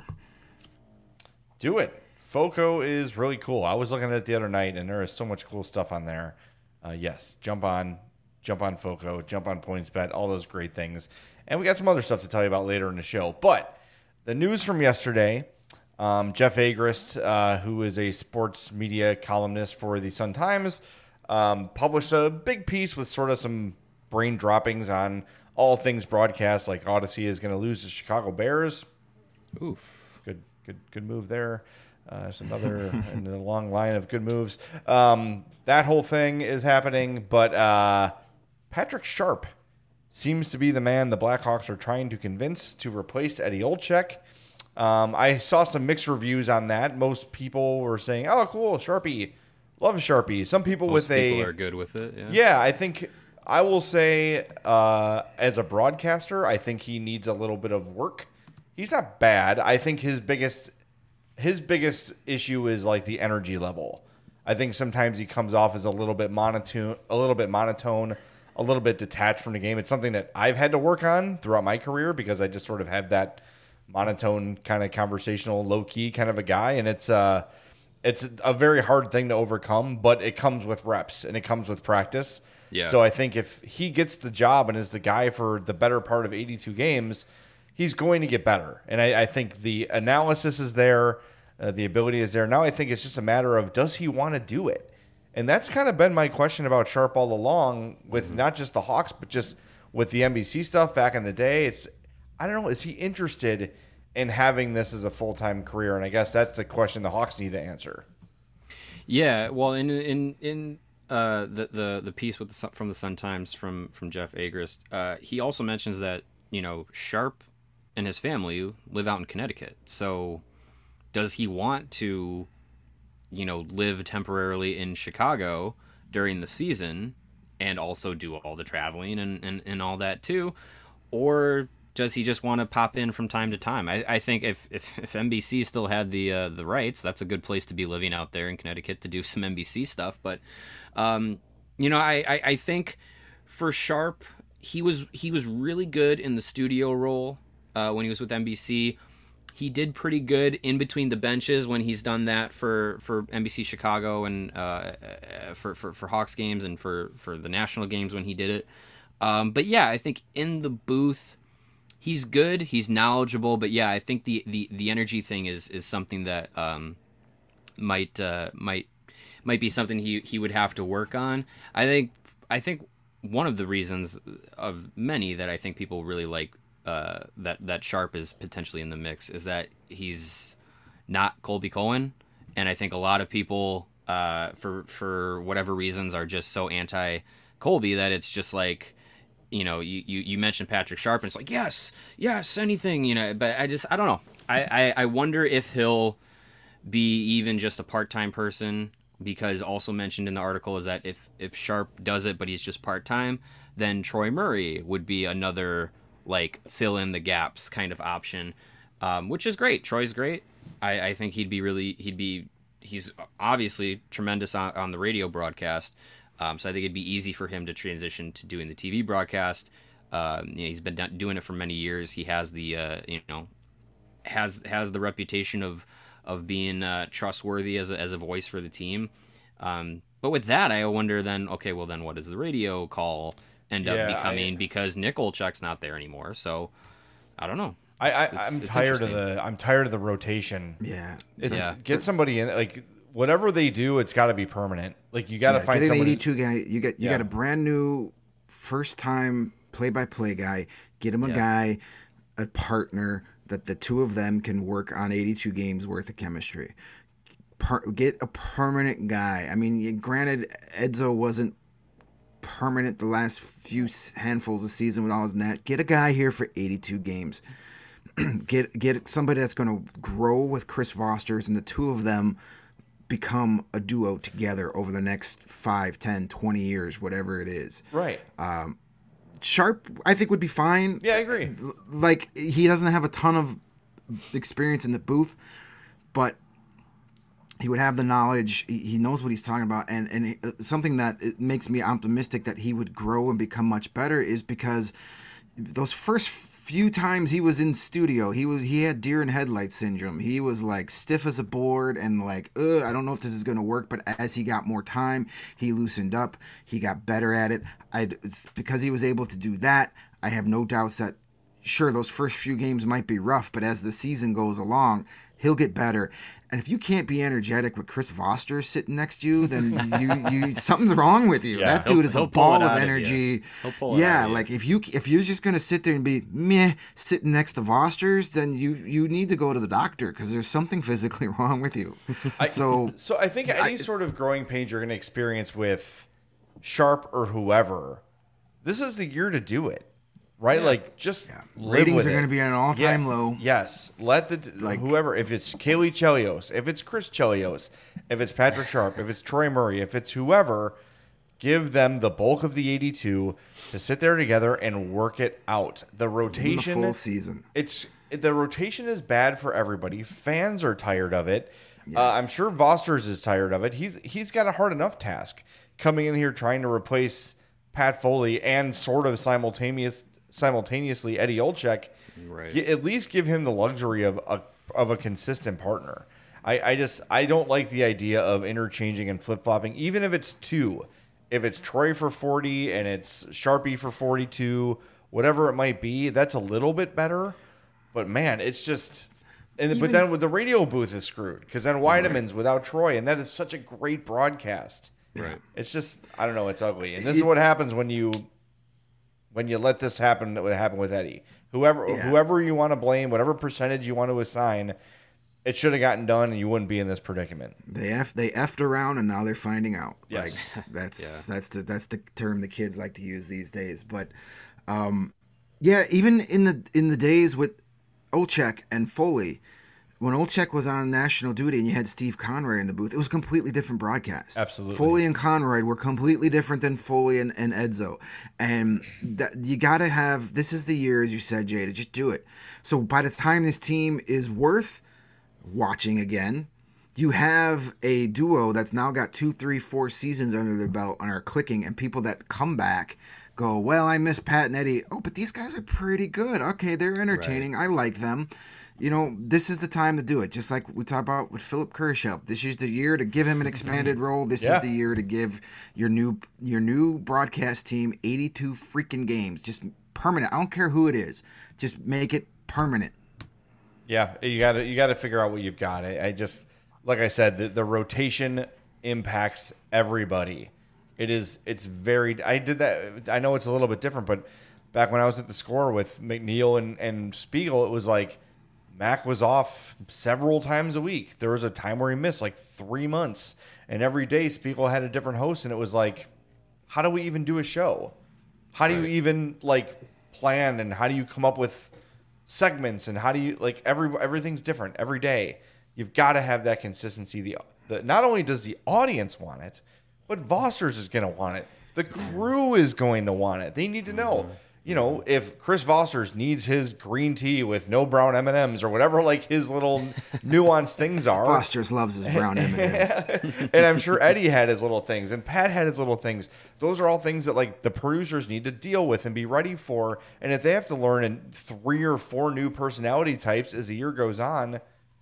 Do it. FOCO is really cool. I was looking at it the other night, and there is so much cool stuff on there. Yes, jump on FOCO, jump on PointsBet, all those great things. And we got some other stuff to tell you about later in the show. But the news from yesterday, Jeff Agrest, who is a sports media columnist for the Sun-Times, published a big piece with sort of some brain droppings on all things broadcast, like Odyssey is going to lose to Chicago Bears. Oof. Good move there. There's another in a long line of good moves. That whole thing is happening, but Patrick Sharp seems to be the man the Blackhawks are trying to convince to replace Eddie Olczyk. I saw some mixed reviews on that. Most people were saying, "Oh, cool, Sharpie, love Sharpie." Some people Most people are good with it. Yeah, I think I will say, as a broadcaster, I think he needs a little bit of work. He's not bad. I think his biggest issue is like the energy level. I think sometimes he comes off as a little bit monotone, a little bit detached from the game. It's something that I've had to work on throughout my career because I just sort of have that monotone kind of conversational, low key kind of a guy, and it's a very hard thing to overcome. But it comes with reps and it comes with practice. Yeah. So I think if he gets the job and is the guy for the better part of 82 games, he's going to get better. And I think the analysis is there. The ability is there. Now I think it's just a matter of, does he want to do it? And that's kind of been my question about Sharp all along with not just the Hawks, but just with the NBC stuff back in the day. I don't know, is he interested in having this as a full-time career? And I guess that's the question the Hawks need to answer. Yeah, well, in the piece from the Sun-Times from Jeff Agrest, he also mentions that, Sharp and his family live out in Connecticut. So does he want to, live temporarily in Chicago during the season and also do all the traveling and all that too? Or does he just want to pop in from time to time? I think if NBC still had the rights, that's a good place to be living out there in Connecticut to do some NBC stuff. But, I think for Sharp, he was really good in the studio role when he was with NBC. He did pretty good in between the benches when he's done that for NBC Chicago and for Hawks games and for the national games when he did it. But yeah, I think in the booth, he's good. He's knowledgeable. But yeah, I think the energy thing is something that might be something he would have to work on. I think one of the reasons of many that I think people really like that Sharp is potentially in the mix is that he's not Colby Cohen, and I think a lot of people for whatever reasons are just so anti Colby that it's just like, you mentioned Patrick Sharp and it's like yes anything, but I don't know. I wonder if he'll be even just a part-time person, because also mentioned in the article is that if Sharp does it but he's just part-time, then Troy Murray would be another like fill in the gaps kind of option, which is great. Troy's great. I think he's obviously tremendous on the radio broadcast. So I think it'd be easy for him to transition to doing the TV broadcast. He's been doing it for many years. He has the has the reputation of being trustworthy as a voice for the team. But with that, I wonder then, okay, well then what does the radio call end up becoming, because Nick Olczyk's not there anymore. So I don't know. I'm tired of the rotation. Yeah. Get somebody in, like whatever they do, it's got to be permanent. Like you got to find get an somebody. 82 guy. You got a brand new first time play-by-play guy. Get him a partner that the two of them can work on 82 games worth of chemistry. Get a permanent guy. I mean, granted, Edzo wasn't permanent the last few handfuls of season with all his net. Get a guy here for 82 games. Get somebody that's going to grow with Chris Vosters, and the two of them become a duo together over the next 5, 10, 20 years, whatever it is. Right. Sharp, I think, would be fine. Yeah, I agree. Like, he doesn't have a ton of experience in the booth, but he would have the knowledge. He knows what he's talking about. And something that it makes me optimistic that he would grow and become much better is because those first few times he was in studio, he had deer in headlights syndrome. He was like stiff as a board and like, I don't know if this is going to work. But as he got more time, he loosened up. He got better at it. It's because he was able to do that. I have no doubts that, sure, those first few games might be rough, but as the season goes along, he'll get better. And if you can't be energetic with Chris Voster sitting next to you, then you something's wrong with you. Yeah. That dude is a ball of energy. Yeah, like if you're just gonna sit there and be meh sitting next to Voster's, then you need to go to the doctor because there's something physically wrong with you. So I think any sort of growing pains you're going to experience with Sharp or whoever, this is the year to do it, right? Like, just live ratings with are it. going to be at an all-time low. Yes, let whoever, if it's Kaylee Chelios, if it's Chris Chelios, if it's Patrick Sharp, if it's Troy Murray, if it's whoever, give them the bulk of the 82 to sit there together and work it out. The rotation, the full season. The rotation is bad for everybody. Fans are tired of it. Yeah. I'm sure Vosters is tired of it. He's got a hard enough task coming in here trying to replace Pat Foley and sort of simultaneously Eddie Olczyk. Right. At least give him the luxury of a consistent partner. I don't like the idea of interchanging and flip flopping, even if it's two. If it's Troy for 40 and it's Sharpie for 42, whatever it might be, that's a little bit better. But man, it's just, but then with the radio booth is screwed because then Weidemann's without Troy, and that is such a great broadcast. Right. It's just, I don't know, it's ugly, and this is what happens when you let this happen. That would happen with Eddie. Whoever you want to blame, whatever percentage you want to assign, it should have gotten done, and you wouldn't be in this predicament. They effed around, and now they're finding out. Yes. Like, that's the term the kids like to use these days. But even in the days with Olczyk and Foley, when Olczyk was on national duty and you had Steve Conroy in the booth, it was a completely different broadcast. Absolutely. Foley and Conroy were completely different than Foley and Edzo. And you got to have, this is the year, as you said, Jay, to just do it. So by the time this team is worth watching again, you have a duo that's now got 2, 3, 4 seasons under their belt and are clicking, and people that come back go, well, I miss Pat and Eddie. Oh, but these guys are pretty good. Okay, they're entertaining. Right. I like them. This is the time to do it. Just like we talked about with Philip Kurashev. This is the year to give him an expanded role. This is the year to give your new broadcast team 82 freaking games. Just permanent. I don't care who it is. Just make it permanent. Yeah, you got to figure out what you've got. I just, like I said, the rotation impacts everybody. It's very. I did that. I know it's a little bit different, but back when I was at the Score with McNeil and Spiegel, it was like Mac was off several times a week. There was a time where he missed like 3 months, and every day Spiegel had a different host, and it was like, how do we even do a show? How do you even plan, and how do you come up with segments, and how do you everything's different every day. You've got to have that consistency. The not only does the audience want it, but Vosters is going to want it. The crew is going to want it. They need to know, if Chris Vosters needs his green tea with no brown M&Ms or whatever, his little nuanced things are. Vosters loves his brown M&Ms. And I'm sure Eddie had his little things, and Pat had his little things. Those are all things that the producers need to deal with and be ready for. And if they have to learn in 3 or 4 new personality types as the year goes on,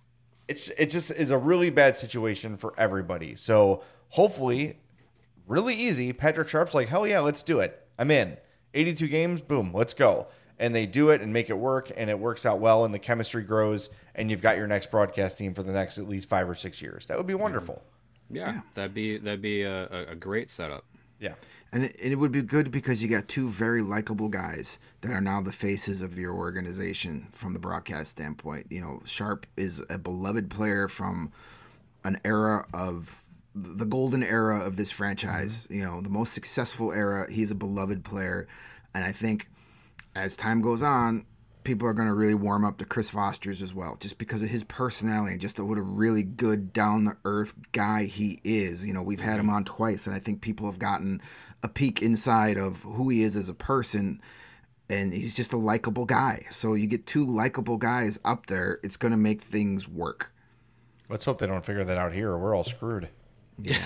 it just is a really bad situation for everybody. So hopefully, really easy. Patrick Sharp's like, hell yeah, let's do it. I'm in. 82 games, boom, let's go. And they do it and make it work, and it works out well, and the chemistry grows, and you've got your next broadcast team for the next at least 5 or 6 years. That would be wonderful. Yeah. that'd be a great setup. Yeah. And it would be good because you got 2 very likable guys that are now the faces of your organization from the broadcast standpoint. Sharp is a beloved player from an era of the golden era of this franchise, the most successful era. He's a beloved player. And I think as time goes on, people are going to really warm up to Chris Vosters as well, just because of his personality and just what a really good down-the-earth guy he is. We've had him on twice, and I think people have gotten a peek inside of who he is as a person, and he's just a likable guy. So you get 2 likable guys up there, it's going to make things work. Let's hope they don't figure that out here, or we're all screwed. Yeah.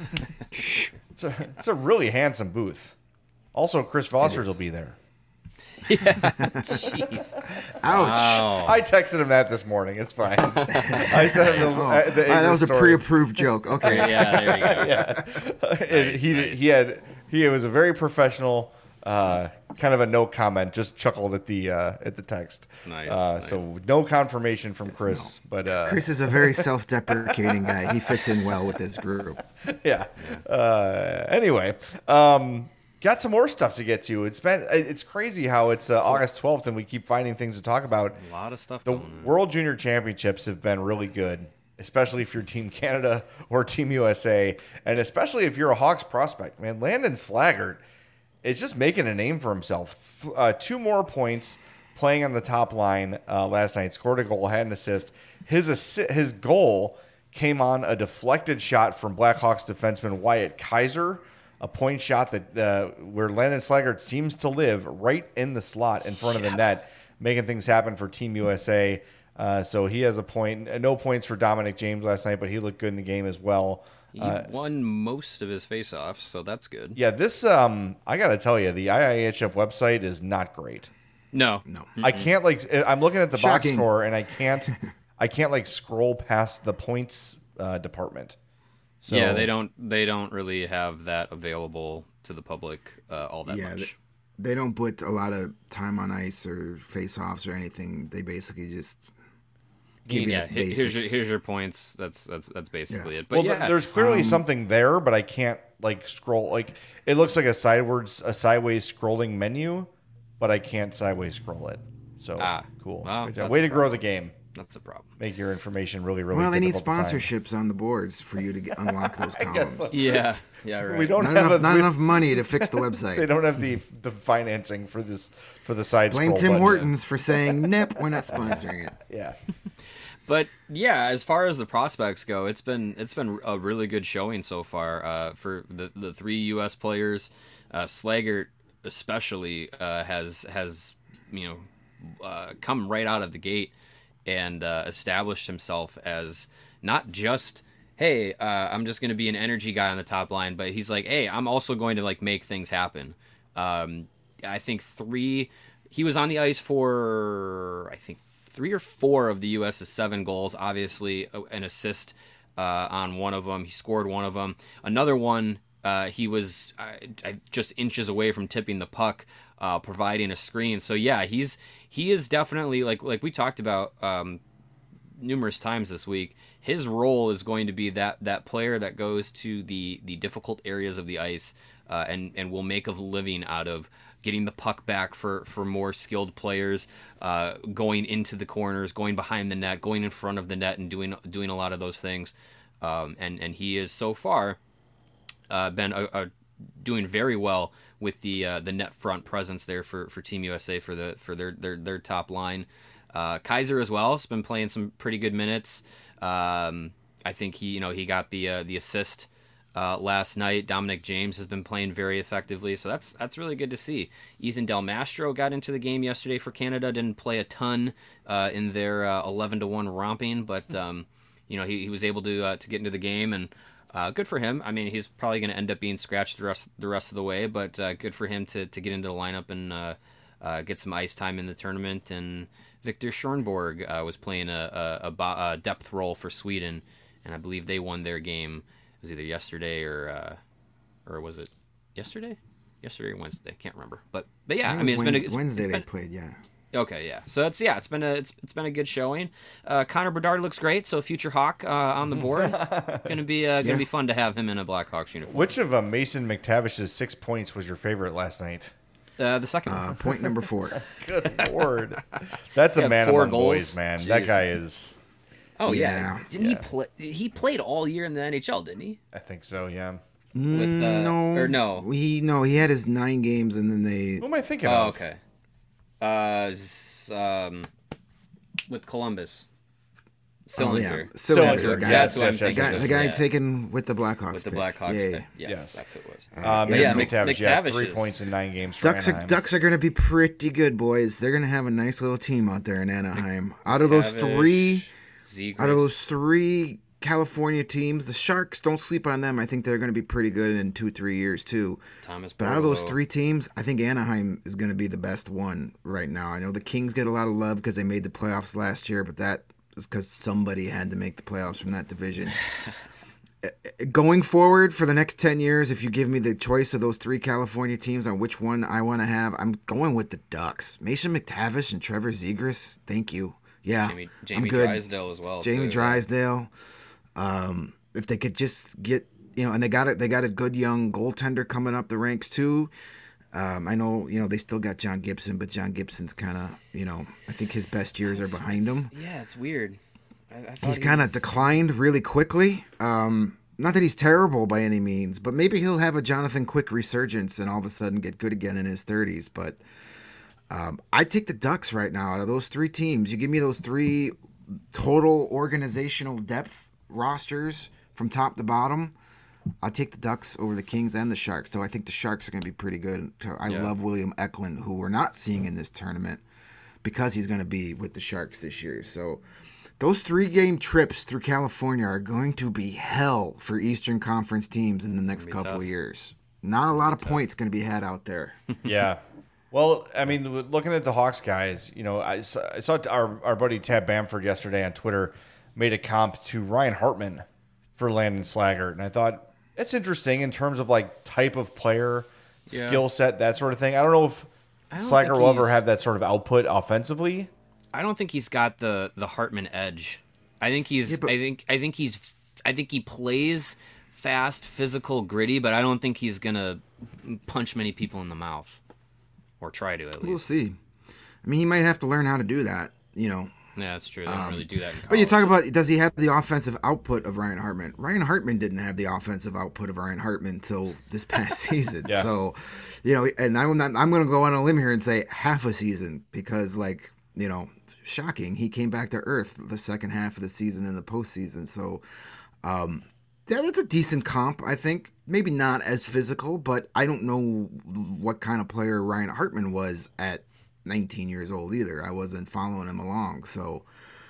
It's a really handsome booth. Also, Chris Vosters will be there. Yeah. Jeez. Ouch. Wow. I texted him that this morning. It's fine. I sent him that was story. A pre-approved joke. Okay. Yeah, there you go. Yeah. And he was a very professional, kind of a no comment, just chuckled at the text. Nice. So no confirmation from Chris, but Chris is a very self-deprecating guy. He fits in well with this group. Yeah. Anyway, got some more stuff to get to. It's crazy how it's August 12th and we keep finding things to talk about. A lot of stuff. The World Junior Championships have been really good, especially if you're Team Canada or Team USA, and especially if you're a Hawks prospect. Man, Landon Slaggert is just making a name for himself. 2 more points playing on the top line last night. Scored a goal, had an assist. His goal came on a deflected shot from Blackhawks defenseman Wyatt Kaiser, a point shot that where Landon Slaggert seems to live right in the slot in front of the net, making things happen for Team USA. So he has a point. No points for Dominic James last night, but he looked good in the game as well. He won most of his faceoffs, so that's good. Yeah, this I got to tell you, the IIHF website is not great. No. I can't I'm looking at the box Shocking. score and I can't scroll past the points department. So yeah, they don't really have that available to the public all that much. They don't put a lot of time on ice or face-offs or anything. They basically just give you the basics. Here's your points. That's basically it. But well, yeah, there's clearly something there, but I can't scroll. It looks like a sideways scrolling menu, but I can't sideways scroll it. So cool. Well, Good job. Way to grow the game. That's a problem. Make your information really, really. Well, they need difficult to find. sponsorships on the boards for you to unlock those columns. so. Yeah, right. We don't Not enough money to fix the website. They don't have the financing for the side. Blame scroll Tim button. Hortons for saying, "Nip, we're not sponsoring it." Yeah. But yeah, as far as the prospects go, it's been a really good showing so far for the 3 U.S. players. Slaggert especially has come right out of the gate and established himself as not just, hey, I'm just going to be an energy guy on the top line, but he's like, hey, I'm also going to make things happen. I think he was on the ice for, I think, 3 or 4 of the U.S.'s 7 goals. Obviously, an assist on one of them. He scored one of them. Another one, he was just inches away from tipping the puck, providing a screen. So yeah, he is definitely like we talked about numerous times this week. His role is going to be that player that goes to the difficult areas of the ice and will make a living out of getting the puck back for more skilled players, going into the corners, going behind the net, going in front of the net, and doing a lot of those things. And he is so far been doing very well with the net front presence there for Team USA for their top line. Kaiser as well has been playing some pretty good minutes. I think he got the assist last night. Dominic James has been playing very effectively, so that's really good to see. Ethan Del Mastro got into the game yesterday for Canada. Didn't play a ton in their 11-1 romping, but he was able to get into the game, and good for him. I mean, he's probably going to end up being scratched the rest of the way, but good for him to get into the lineup and get some ice time in the tournament. And Victor Schornborg was playing a depth role for Sweden, and I believe they won their game. It was either yesterday or was it yesterday? Yesterday or Wednesday? Can't remember. But yeah, I mean, Wednesday they played. Yeah. Okay, yeah. So it's been a good showing. Connor Bedard looks great, so future Hawk on the board. Gonna be fun to have him in a Blackhawks uniform. Which of Mason McTavish's 6 points was your favorite last night? The second one. Point number 4. Good Lord, that's a man 4 among goals. boys, man. Jeez. That guy is. Oh yeah. Yeah. Didn't he play? He played all year in the NHL, didn't he? I think so. Yeah. With no. He had his 9 games and then they. Who am I thinking Oh, of? okay. With Columbus. Sillinger. Sillinger. Yes, The guy taken with the Blackhawks. With the pick. Blackhawks. Yeah, pick. yeah. Yes, that's who it was. Mason McTavish, McTavish, 3 is- points in 9 games for Anaheim. Ducks are going to be pretty good, boys. They're going to have a nice little team out there in Anaheim. Out of those three California teams, the Sharks, don't sleep on them. I think they're going to be pretty good in 2-3 years too. But out of those 3 teams, I think Anaheim is going to be the best one right now. I know the Kings get a lot of love because they made the playoffs last year, but that is because somebody had to make the playoffs from that division. Going forward for the next 10 years, if you give me the choice of those 3 California teams on which one I want to have, I'm going with the Ducks. Mason McTavish and Trevor Zegras, thank you. Yeah, Jamie I'm good. Drysdale as well. Jamie Drysdale. If they could just get, and they got a good young goaltender coming up the ranks too. I know, they still got John Gibson, but John Gibson's kind of, I think his best years are behind him. Yeah, it's weird. He's kind of declined really quickly. not that he's terrible by any means, but maybe he'll have a Jonathan Quick resurgence and all of a sudden get good again in his 30s. But I take the Ducks right now out of those three teams. You give me those three total organizational depth rosters from top to bottom. I'll take the Ducks over the Kings and the Sharks. So I think the Sharks are going to be pretty good. I love William Eklund, who we're not seeing in this tournament because he's going to be with the Sharks this year. So those 3-game trips through California are going to be hell for Eastern Conference teams in the next couple of years. Not a lot of points going to be had out there. Yeah. Well, I mean, looking at the Hawks guys, I saw our buddy Tab Bamford yesterday on Twitter made a comp to Ryan Hartman for Landon Slaggert. And I thought, it's interesting in terms of like type of player, skill set, that sort of thing. I don't know if Slaggert will ever have that sort of output offensively. I don't think he's got the Hartman edge. I think he's. I think he plays fast, physical, gritty, but I don't think he's gonna punch many people in the mouth, or try to at least. We'll see. I mean, he might have to learn how to do that. Yeah, that's true. They don't really do that in college. But you talk about, does he have the offensive output of Ryan Hartman? Ryan Hartman didn't have the offensive output of Ryan Hartman until this past season. Yeah. So, and I'm going to go on a limb here and say half a season because, shocking, he came back to earth the second half of the season in the postseason. So, that's a decent comp, I think. Maybe not as physical, but I don't know what kind of player Ryan Hartman was at 19 years old either. I wasn't following him along. So,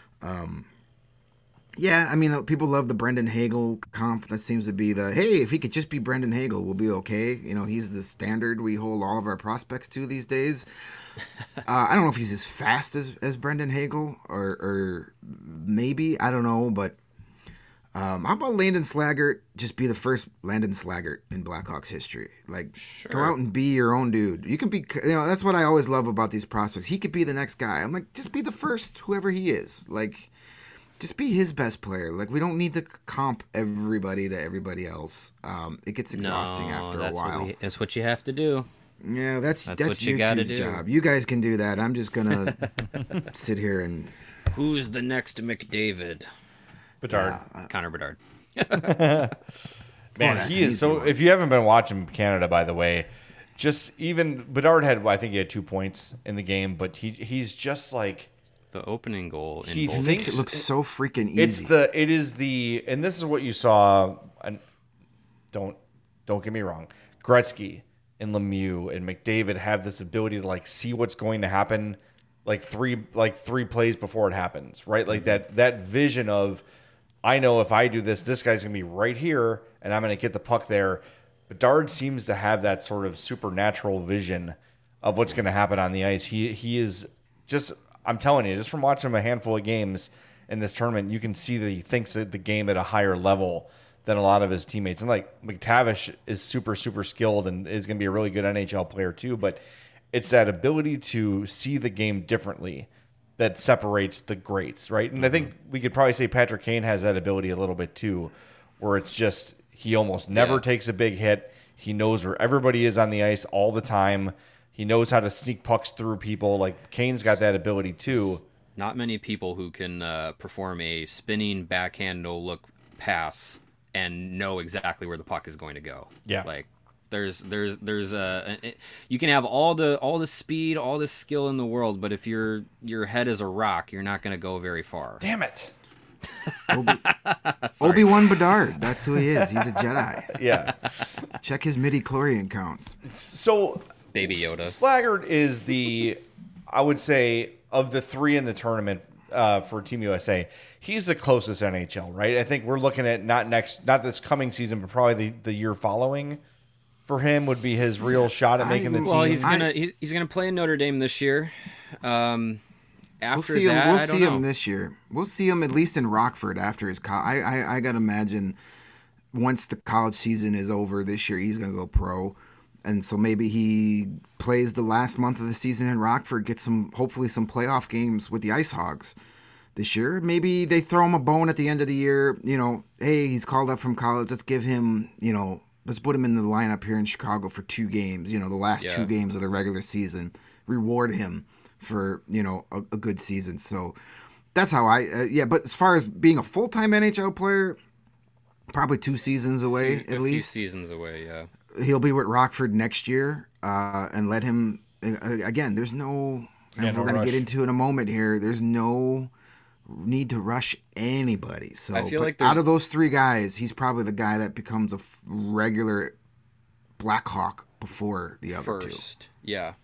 I mean, people love the Brendan Hagel comp. That seems to be hey, if he could just be Brendan Hagel, we'll be okay. He's the standard we hold all of our prospects to these days. I don't know if he's as fast as Brendan Hagel or maybe, I don't know, but how about Landon Slaggert just be the first Landon Slaggert in Blackhawks history? Go out and be your own dude. You can be, that's what I always love about these prospects. He could be the next guy. I'm like, just be the first, whoever he is. Just be his best player. We don't need to comp everybody to everybody else. It gets exhausting after a while. That's what you have to do. Yeah, that's what you got to job. You guys can do that. I'm just gonna sit here and. Who's the next McDavid? Bedard. Connor Bedard. Man, he is so. If you haven't been watching Canada, by the way, just even Bedard I think he had 2 points in the game, but he's just like the opening goal. He thinks it looks so freaking easy. It is the, and this is what you saw. And don't get me wrong, Gretzky and Lemieux and McDavid have this ability to see what's going to happen, three plays before it happens, right? That vision of, I know if I do this guy's going to be right here, and I'm going to get the puck there. Bedard seems to have that sort of supernatural vision of what's going to happen on the ice. He is just, I'm telling you, just from watching him a handful of games in this tournament, you can see that he thinks that the game at a higher level than a lot of his teammates. And McTavish is super, super skilled and is going to be a really good NHL player too, but it's that ability to see the game differently that separates the greats, right? And I think we could probably say Patrick Kane has that ability a little bit too, where it's just he almost never takes a big hit. He knows where everybody is on the ice all the time. He knows how to sneak pucks through people. Kane's got that ability too. Not many people who can perform a spinning backhand no-look pass and know exactly where the puck is going to go. Yeah. There's you can have all the speed, all the skill in the world, but if your head is a rock, you're not going to go very far. Damn it. Obi-Wan Bedard. That's who he is. He's a Jedi. Yeah. Check his midi-chlorian counts. So Baby Yoda. Slaggert is I would say, of the three in the tournament for Team USA, he's the closest NHL, right? I think we're looking at not this coming season, but probably the year following. For him would be his real shot at making the team. Well, he's gonna play in Notre Dame this year. We'll see him this year. We'll see him at least in Rockford after his college. I gotta imagine once the college season is over this year, he's gonna go pro, and so maybe he plays the last month of the season in Rockford, gets hopefully some playoff games with the Ice Hogs this year. Maybe they throw him a bone at the end of the year. Hey, he's called up from college. Let's give him, let's put him in the lineup here in Chicago for 2 games, the last 2 games of the regular season. Reward him for, a good season. So that's how but as far as being a full-time NHL player, probably 2 seasons away at least. 2 seasons away, yeah. He'll be with Rockford next year, and let him again. There's no, and we're going to get into in a moment here. There's no need to rush anybody. So I feel like out of those 3 guys, he's probably the guy that becomes a regular Blackhawk before the other first. 2. Yeah.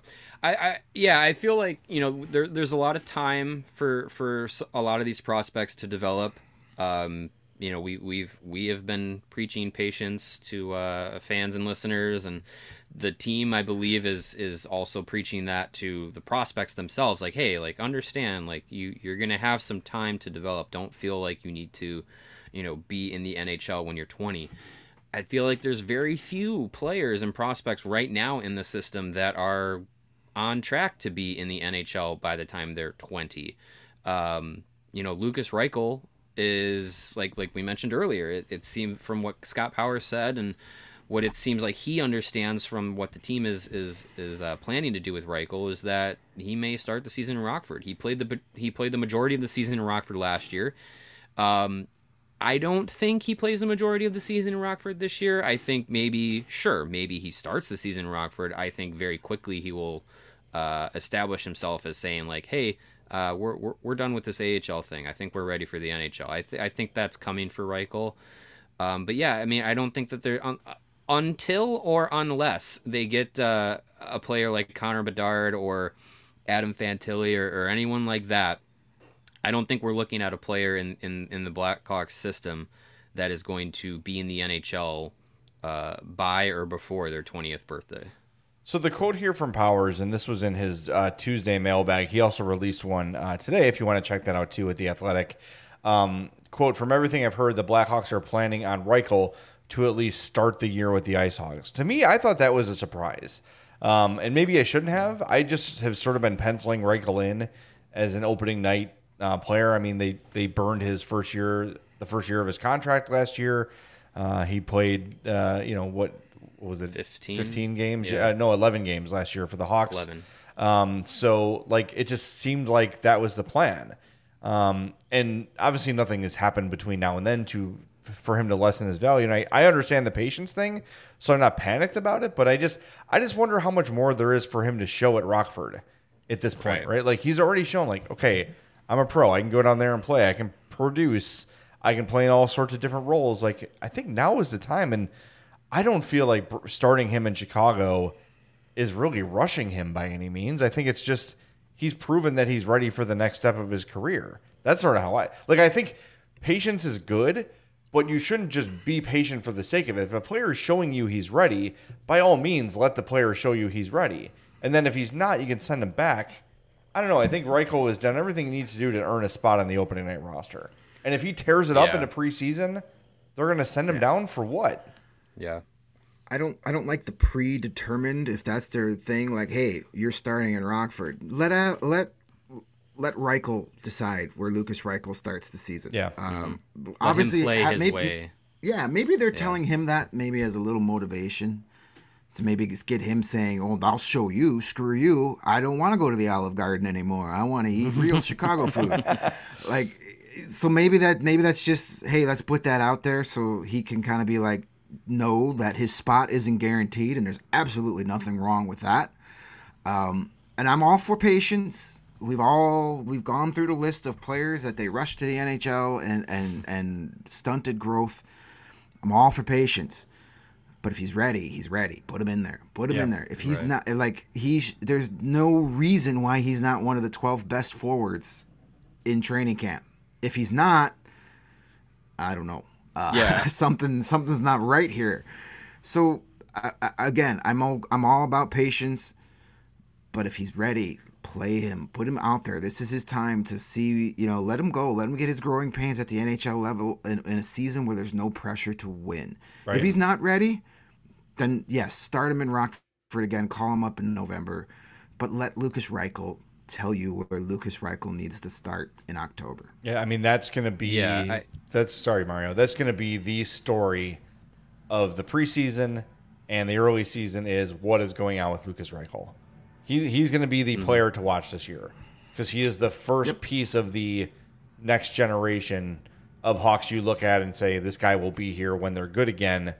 I feel like, you know, there's a lot of time for a lot of these prospects to develop. You know, we have been preaching patience to fans and listeners, and the team, I believe, is also preaching that to the prospects themselves. Like, hey, like, understand, like, you're gonna have some time to develop. Don't feel like you need to, you know, be in the NHL when you're 20. I feel like there's very few players and prospects right now in the system that are on track to be in the NHL by the time they're 20. You know, Lucas Reichel is like we mentioned earlier. It seemed from what Scott Powers said and what it seems like he understands from what the team is planning to do with Reichel is that he may start the season in Rockford. He played the majority of the season in Rockford last year. I don't think he plays the majority of the season in Rockford this year. I think maybe he starts the season in Rockford. I think very quickly he will establish himself as saying like, hey, we're done with this AHL thing. I think we're ready for the NHL. I think that's coming for Reichel. But yeah, I mean, I don't think that they're until or unless they get a player like Connor Bedard or Adam Fantilli or anyone like that. I don't think we're looking at a player in the Blackhawks system that is going to be in the NHL by or before their 20th birthday. So the quote here from Powers, and this was in his Tuesday mailbag. He also released one today, if you want to check that out too, at The Athletic. Quote, from everything I've heard, the Blackhawks are planning on Reichel to at least start the year with the Ice Hogs. To me, I thought that was a surprise. And maybe I shouldn't have. I just have sort of been penciling Reichel in as an opening night player. I mean, they burned his the first year of his contract last year. He played, what was it? 15 games? Yeah. 11 games last year for the Hawks. 11. So like, it just seemed like that was the plan. And obviously nothing has happened between now and then for him to lessen his value. And I understand the patience thing, so I'm not panicked about it, but I just wonder how much more there is for him to show at Rockford at this point, right? Like, he's already shown, like, okay, I'm a pro. I can go down there and play. I can produce. I can play in all sorts of different roles. Like, I think now is the time, and I don't feel like starting him in Chicago is really rushing him by any means. I think it's just he's proven that he's ready for the next step of his career. That's sort of how I think patience is good, but you shouldn't just be patient for the sake of it. If a player is showing you he's ready, by all means, let the player show you he's ready. And then if he's not, you can send him back. I don't know. I think Reichel has done everything he needs to do to earn a spot on the opening night roster. And if he tears it up into preseason, they're going to send him down for what? Yeah. I don't like the predetermined, if that's their thing, like, hey, you're starting in Rockford. Let Reichel decide where Lucas Reichel starts the season. Yeah. Obviously, him play his way. Yeah, maybe they're telling him that maybe as a little motivation to maybe get him saying, "Oh, I'll show you. Screw you. I don't want to go to the Olive Garden anymore. I want to eat real Chicago food." Like, so maybe that's just, hey, let's put that out there so he can kind of be like, know that his spot isn't guaranteed, and there's absolutely nothing wrong with that. And I'm all for patience. We've gone through the list of players that they rushed to the NHL and stunted growth. I'm all for patience. But if he's ready, he's ready. Put him in there. In there. If he's not, like, there's no reason why he's not one of the 12 best forwards in training camp. If he's not, I don't know. Something's not right here. So again, I'm all about patience. But if he's ready, play him. Put him out there. This is his time to see. Let him go. Let him get his growing pains at the NHL level in a season where there's no pressure to win. Right. If he's not ready, then yes, start him in Rockford again. Call him up in November, but let Lucas Reichel tell you where Lucas Reichel needs to start in October. Yeah, I mean, that's going to be sorry, Mario. That's going to be the story of the preseason and the early season is what is going on with Lucas Reichel. He's going to be the player to watch this year because he is the first piece of the next generation of Hawks you look at and say, this guy will be here when they're good again.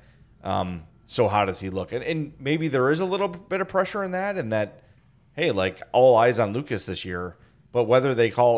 So how does he look? And maybe there is a little bit of pressure in that, hey, like all eyes on Lucas this year. But whether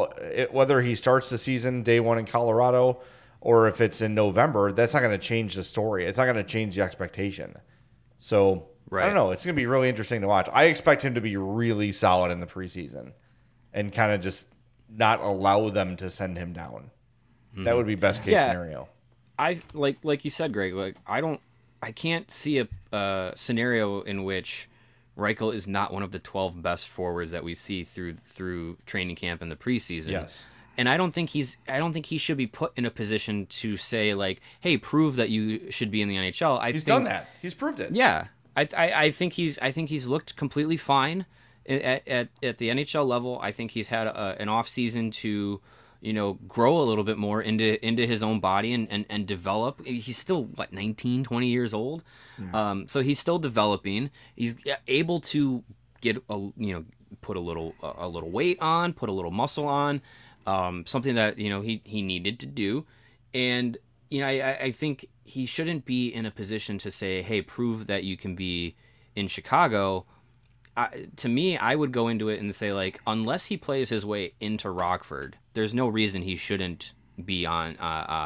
he starts the season day one in Colorado or if it's in November, that's not going to change the story. It's not going to change the expectation. So I don't know. It's going to be really interesting to watch. I expect him to be really solid in the preseason and kind of just not allow them to send him down. Mm-hmm. That would be best case scenario. I like you said, Greg. Like I can't see a scenario in which Reichel is not one of the 12 best forwards that we see through training camp and the preseason. Yes. And I don't think he should be put in a position to say like, "Hey, prove that you should be in the NHL." He's done that. He's proved it. Yeah. I think he's looked completely fine at the NHL level. I think he's had an off season to grow a little bit more into his own body and develop. He's still 19, 20 years old. Yeah. So he's still developing. He's able to get put a little weight on, put a little muscle on, something that he needed to do. And I think he shouldn't be in a position to say, hey, prove that you can be in Chicago. To me, I would go into it and say, like, unless he plays his way into Rockford, there's no reason he shouldn't be on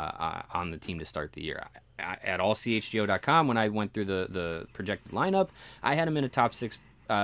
the team to start the year. At allchgo.com, when I went through the projected lineup, I had him in a top six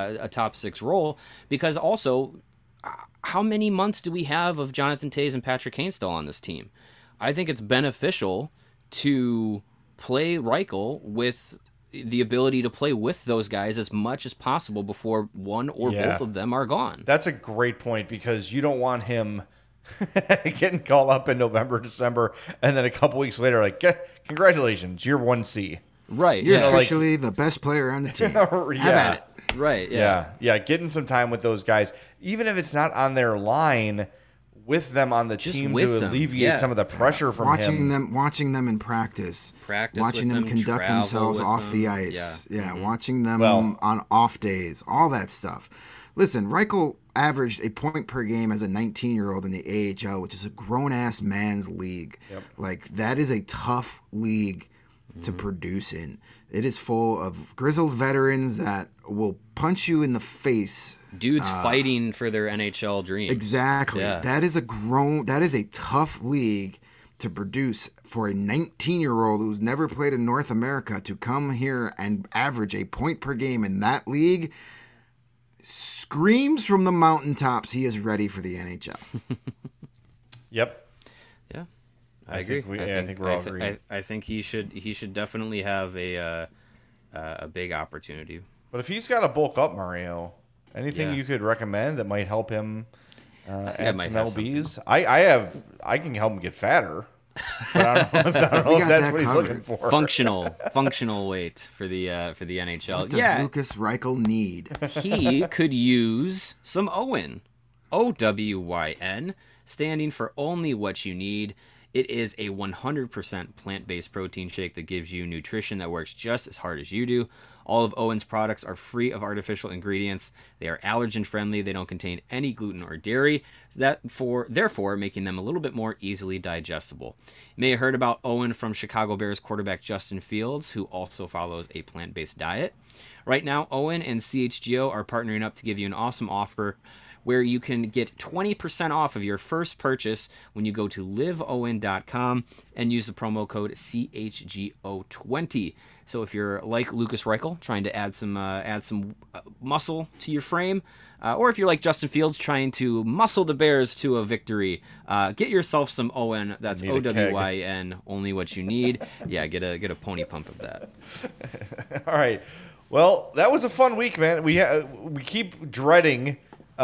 role, because also, how many months do we have of Jonathan Toews and Patrick Kane still on this team? I think it's beneficial to play Reichel with the ability to play with those guys as much as possible before one or both of them are gone. That's a great point, because you don't want him getting called up in November, December, and then a couple weeks later, like, congratulations, you're 1C. Right. You're officially the best player on the team. Yeah. Right. Yeah. Yeah. Getting some time with those guys, even if it's not on their line, with them on the team to alleviate some of the pressure from watching them in practice watching them conduct themselves off the ice, watching them on off days, all that stuff. Listen, Reichel averaged a point per game as a 19-year-old in the AHL, which is a grown-ass man's league. Yep. Like, that is a tough league to produce in. It is full of grizzled veterans that will punch you in the face. Dudes fighting for their NHL dreams. Exactly. Yeah. That is a tough league to produce for a 19-year-old who's never played in North America to come here and average a point per game in that league. Screams from the mountaintops he is ready for the NHL. Yep. Yeah. I agree. I think we're all agreeing. I think he should definitely have a big opportunity. But if he's got to bulk up, Mario, anything you could recommend that might help him add some LBs? I can help him get fatter. But I don't know if that's what he's looking for. Functional weight for the NHL. What does Lucas Reichel need? He could use some Owen. OWYN, standing for only what you need. It is a 100% plant-based protein shake that gives you nutrition that works just as hard as you do. All of Owen's products are free of artificial ingredients. They are allergen-friendly. They don't contain any gluten or dairy, therefore making them a little bit more easily digestible. You may have heard about Owen from Chicago Bears quarterback Justin Fields, who also follows a plant-based diet. Right now, Owen and CHGO are partnering up to give you an awesome offer where you can get 20% off of your first purchase when you go to liveowen.com and use the promo code CHGO20. So if you're like Lucas Reichel, trying to add some muscle to your frame, or if you're like Justin Fields, trying to muscle the Bears to a victory, get yourself some Owen. That's OWYN, only what you need. Yeah, get a pony pump of that. All right. Well, that was a fun week, man. We keep dreading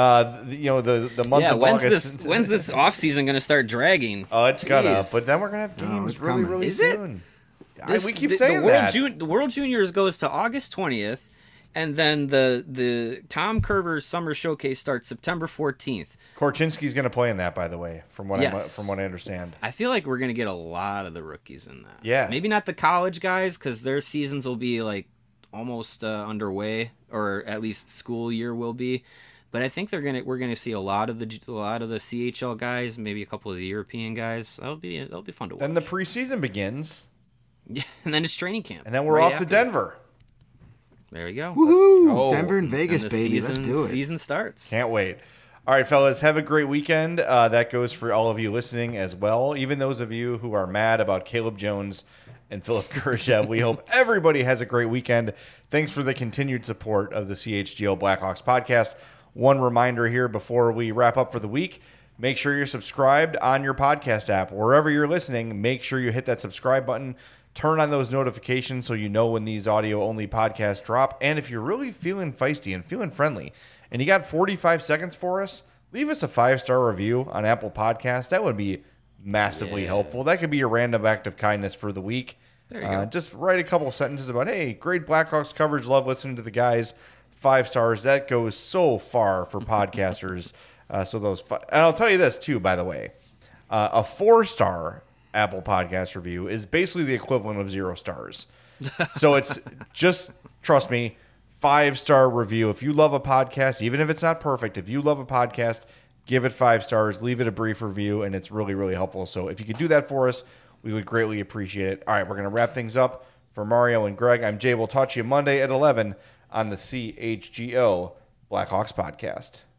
the month of August. When's this off season going to start dragging? Oh, it's gonna. But then we're gonna have games really soon. We keep saying that. The World Juniors goes to August 20th, and then the Tom Curver Summer Showcase starts September 14th. Korchinski's going to play in that, by the way, from what I understand. I feel like we're going to get a lot of the rookies in that. Yeah. Maybe not the college guys, because their seasons will be like almost underway, or at least school year will be. But I think we're gonna see a lot of the CHL guys, maybe a couple of the European guys. That'll be fun to watch. Then the preseason begins. Yeah, and then it's training camp. And then we're off to Denver. There you go. Woohoo! Denver and Vegas, and baby. Let's do it. Season starts. Can't wait. All right, fellas, have a great weekend. That goes for all of you listening as well. Even those of you who are mad about Caleb Jones and Philipp Kurashev. We hope everybody has a great weekend. Thanks for the continued support of the CHGO Blackhawks podcast. One reminder here before we wrap up for the week, make sure you're subscribed on your podcast app. Wherever you're listening, make sure you hit that subscribe button. Turn on those notifications so you know when these audio-only podcasts drop. And if you're really feeling feisty and feeling friendly and you got 45 seconds for us, leave us a 5-star review on Apple Podcasts. That would be massively helpful. That could be your random act of kindness for the week. There you go. Just write a couple sentences about, hey, great Blackhawks coverage. Love listening to the guys. 5 stars. That goes so far for podcasters. And I'll tell you this, too, by the way. A 4-star Apple Podcast review is basically the equivalent of 0 stars. So it's just, trust me, 5-star review. If you love a podcast, even if it's not perfect, if you love a podcast, give it 5 stars, leave it a brief review, and it's really, really helpful. So if you could do that for us, we would greatly appreciate it. All right, we're going to wrap things up. For Mario and Greg, I'm Jay. We'll talk to you Monday at 11 on the CHGO Blackhawks podcast.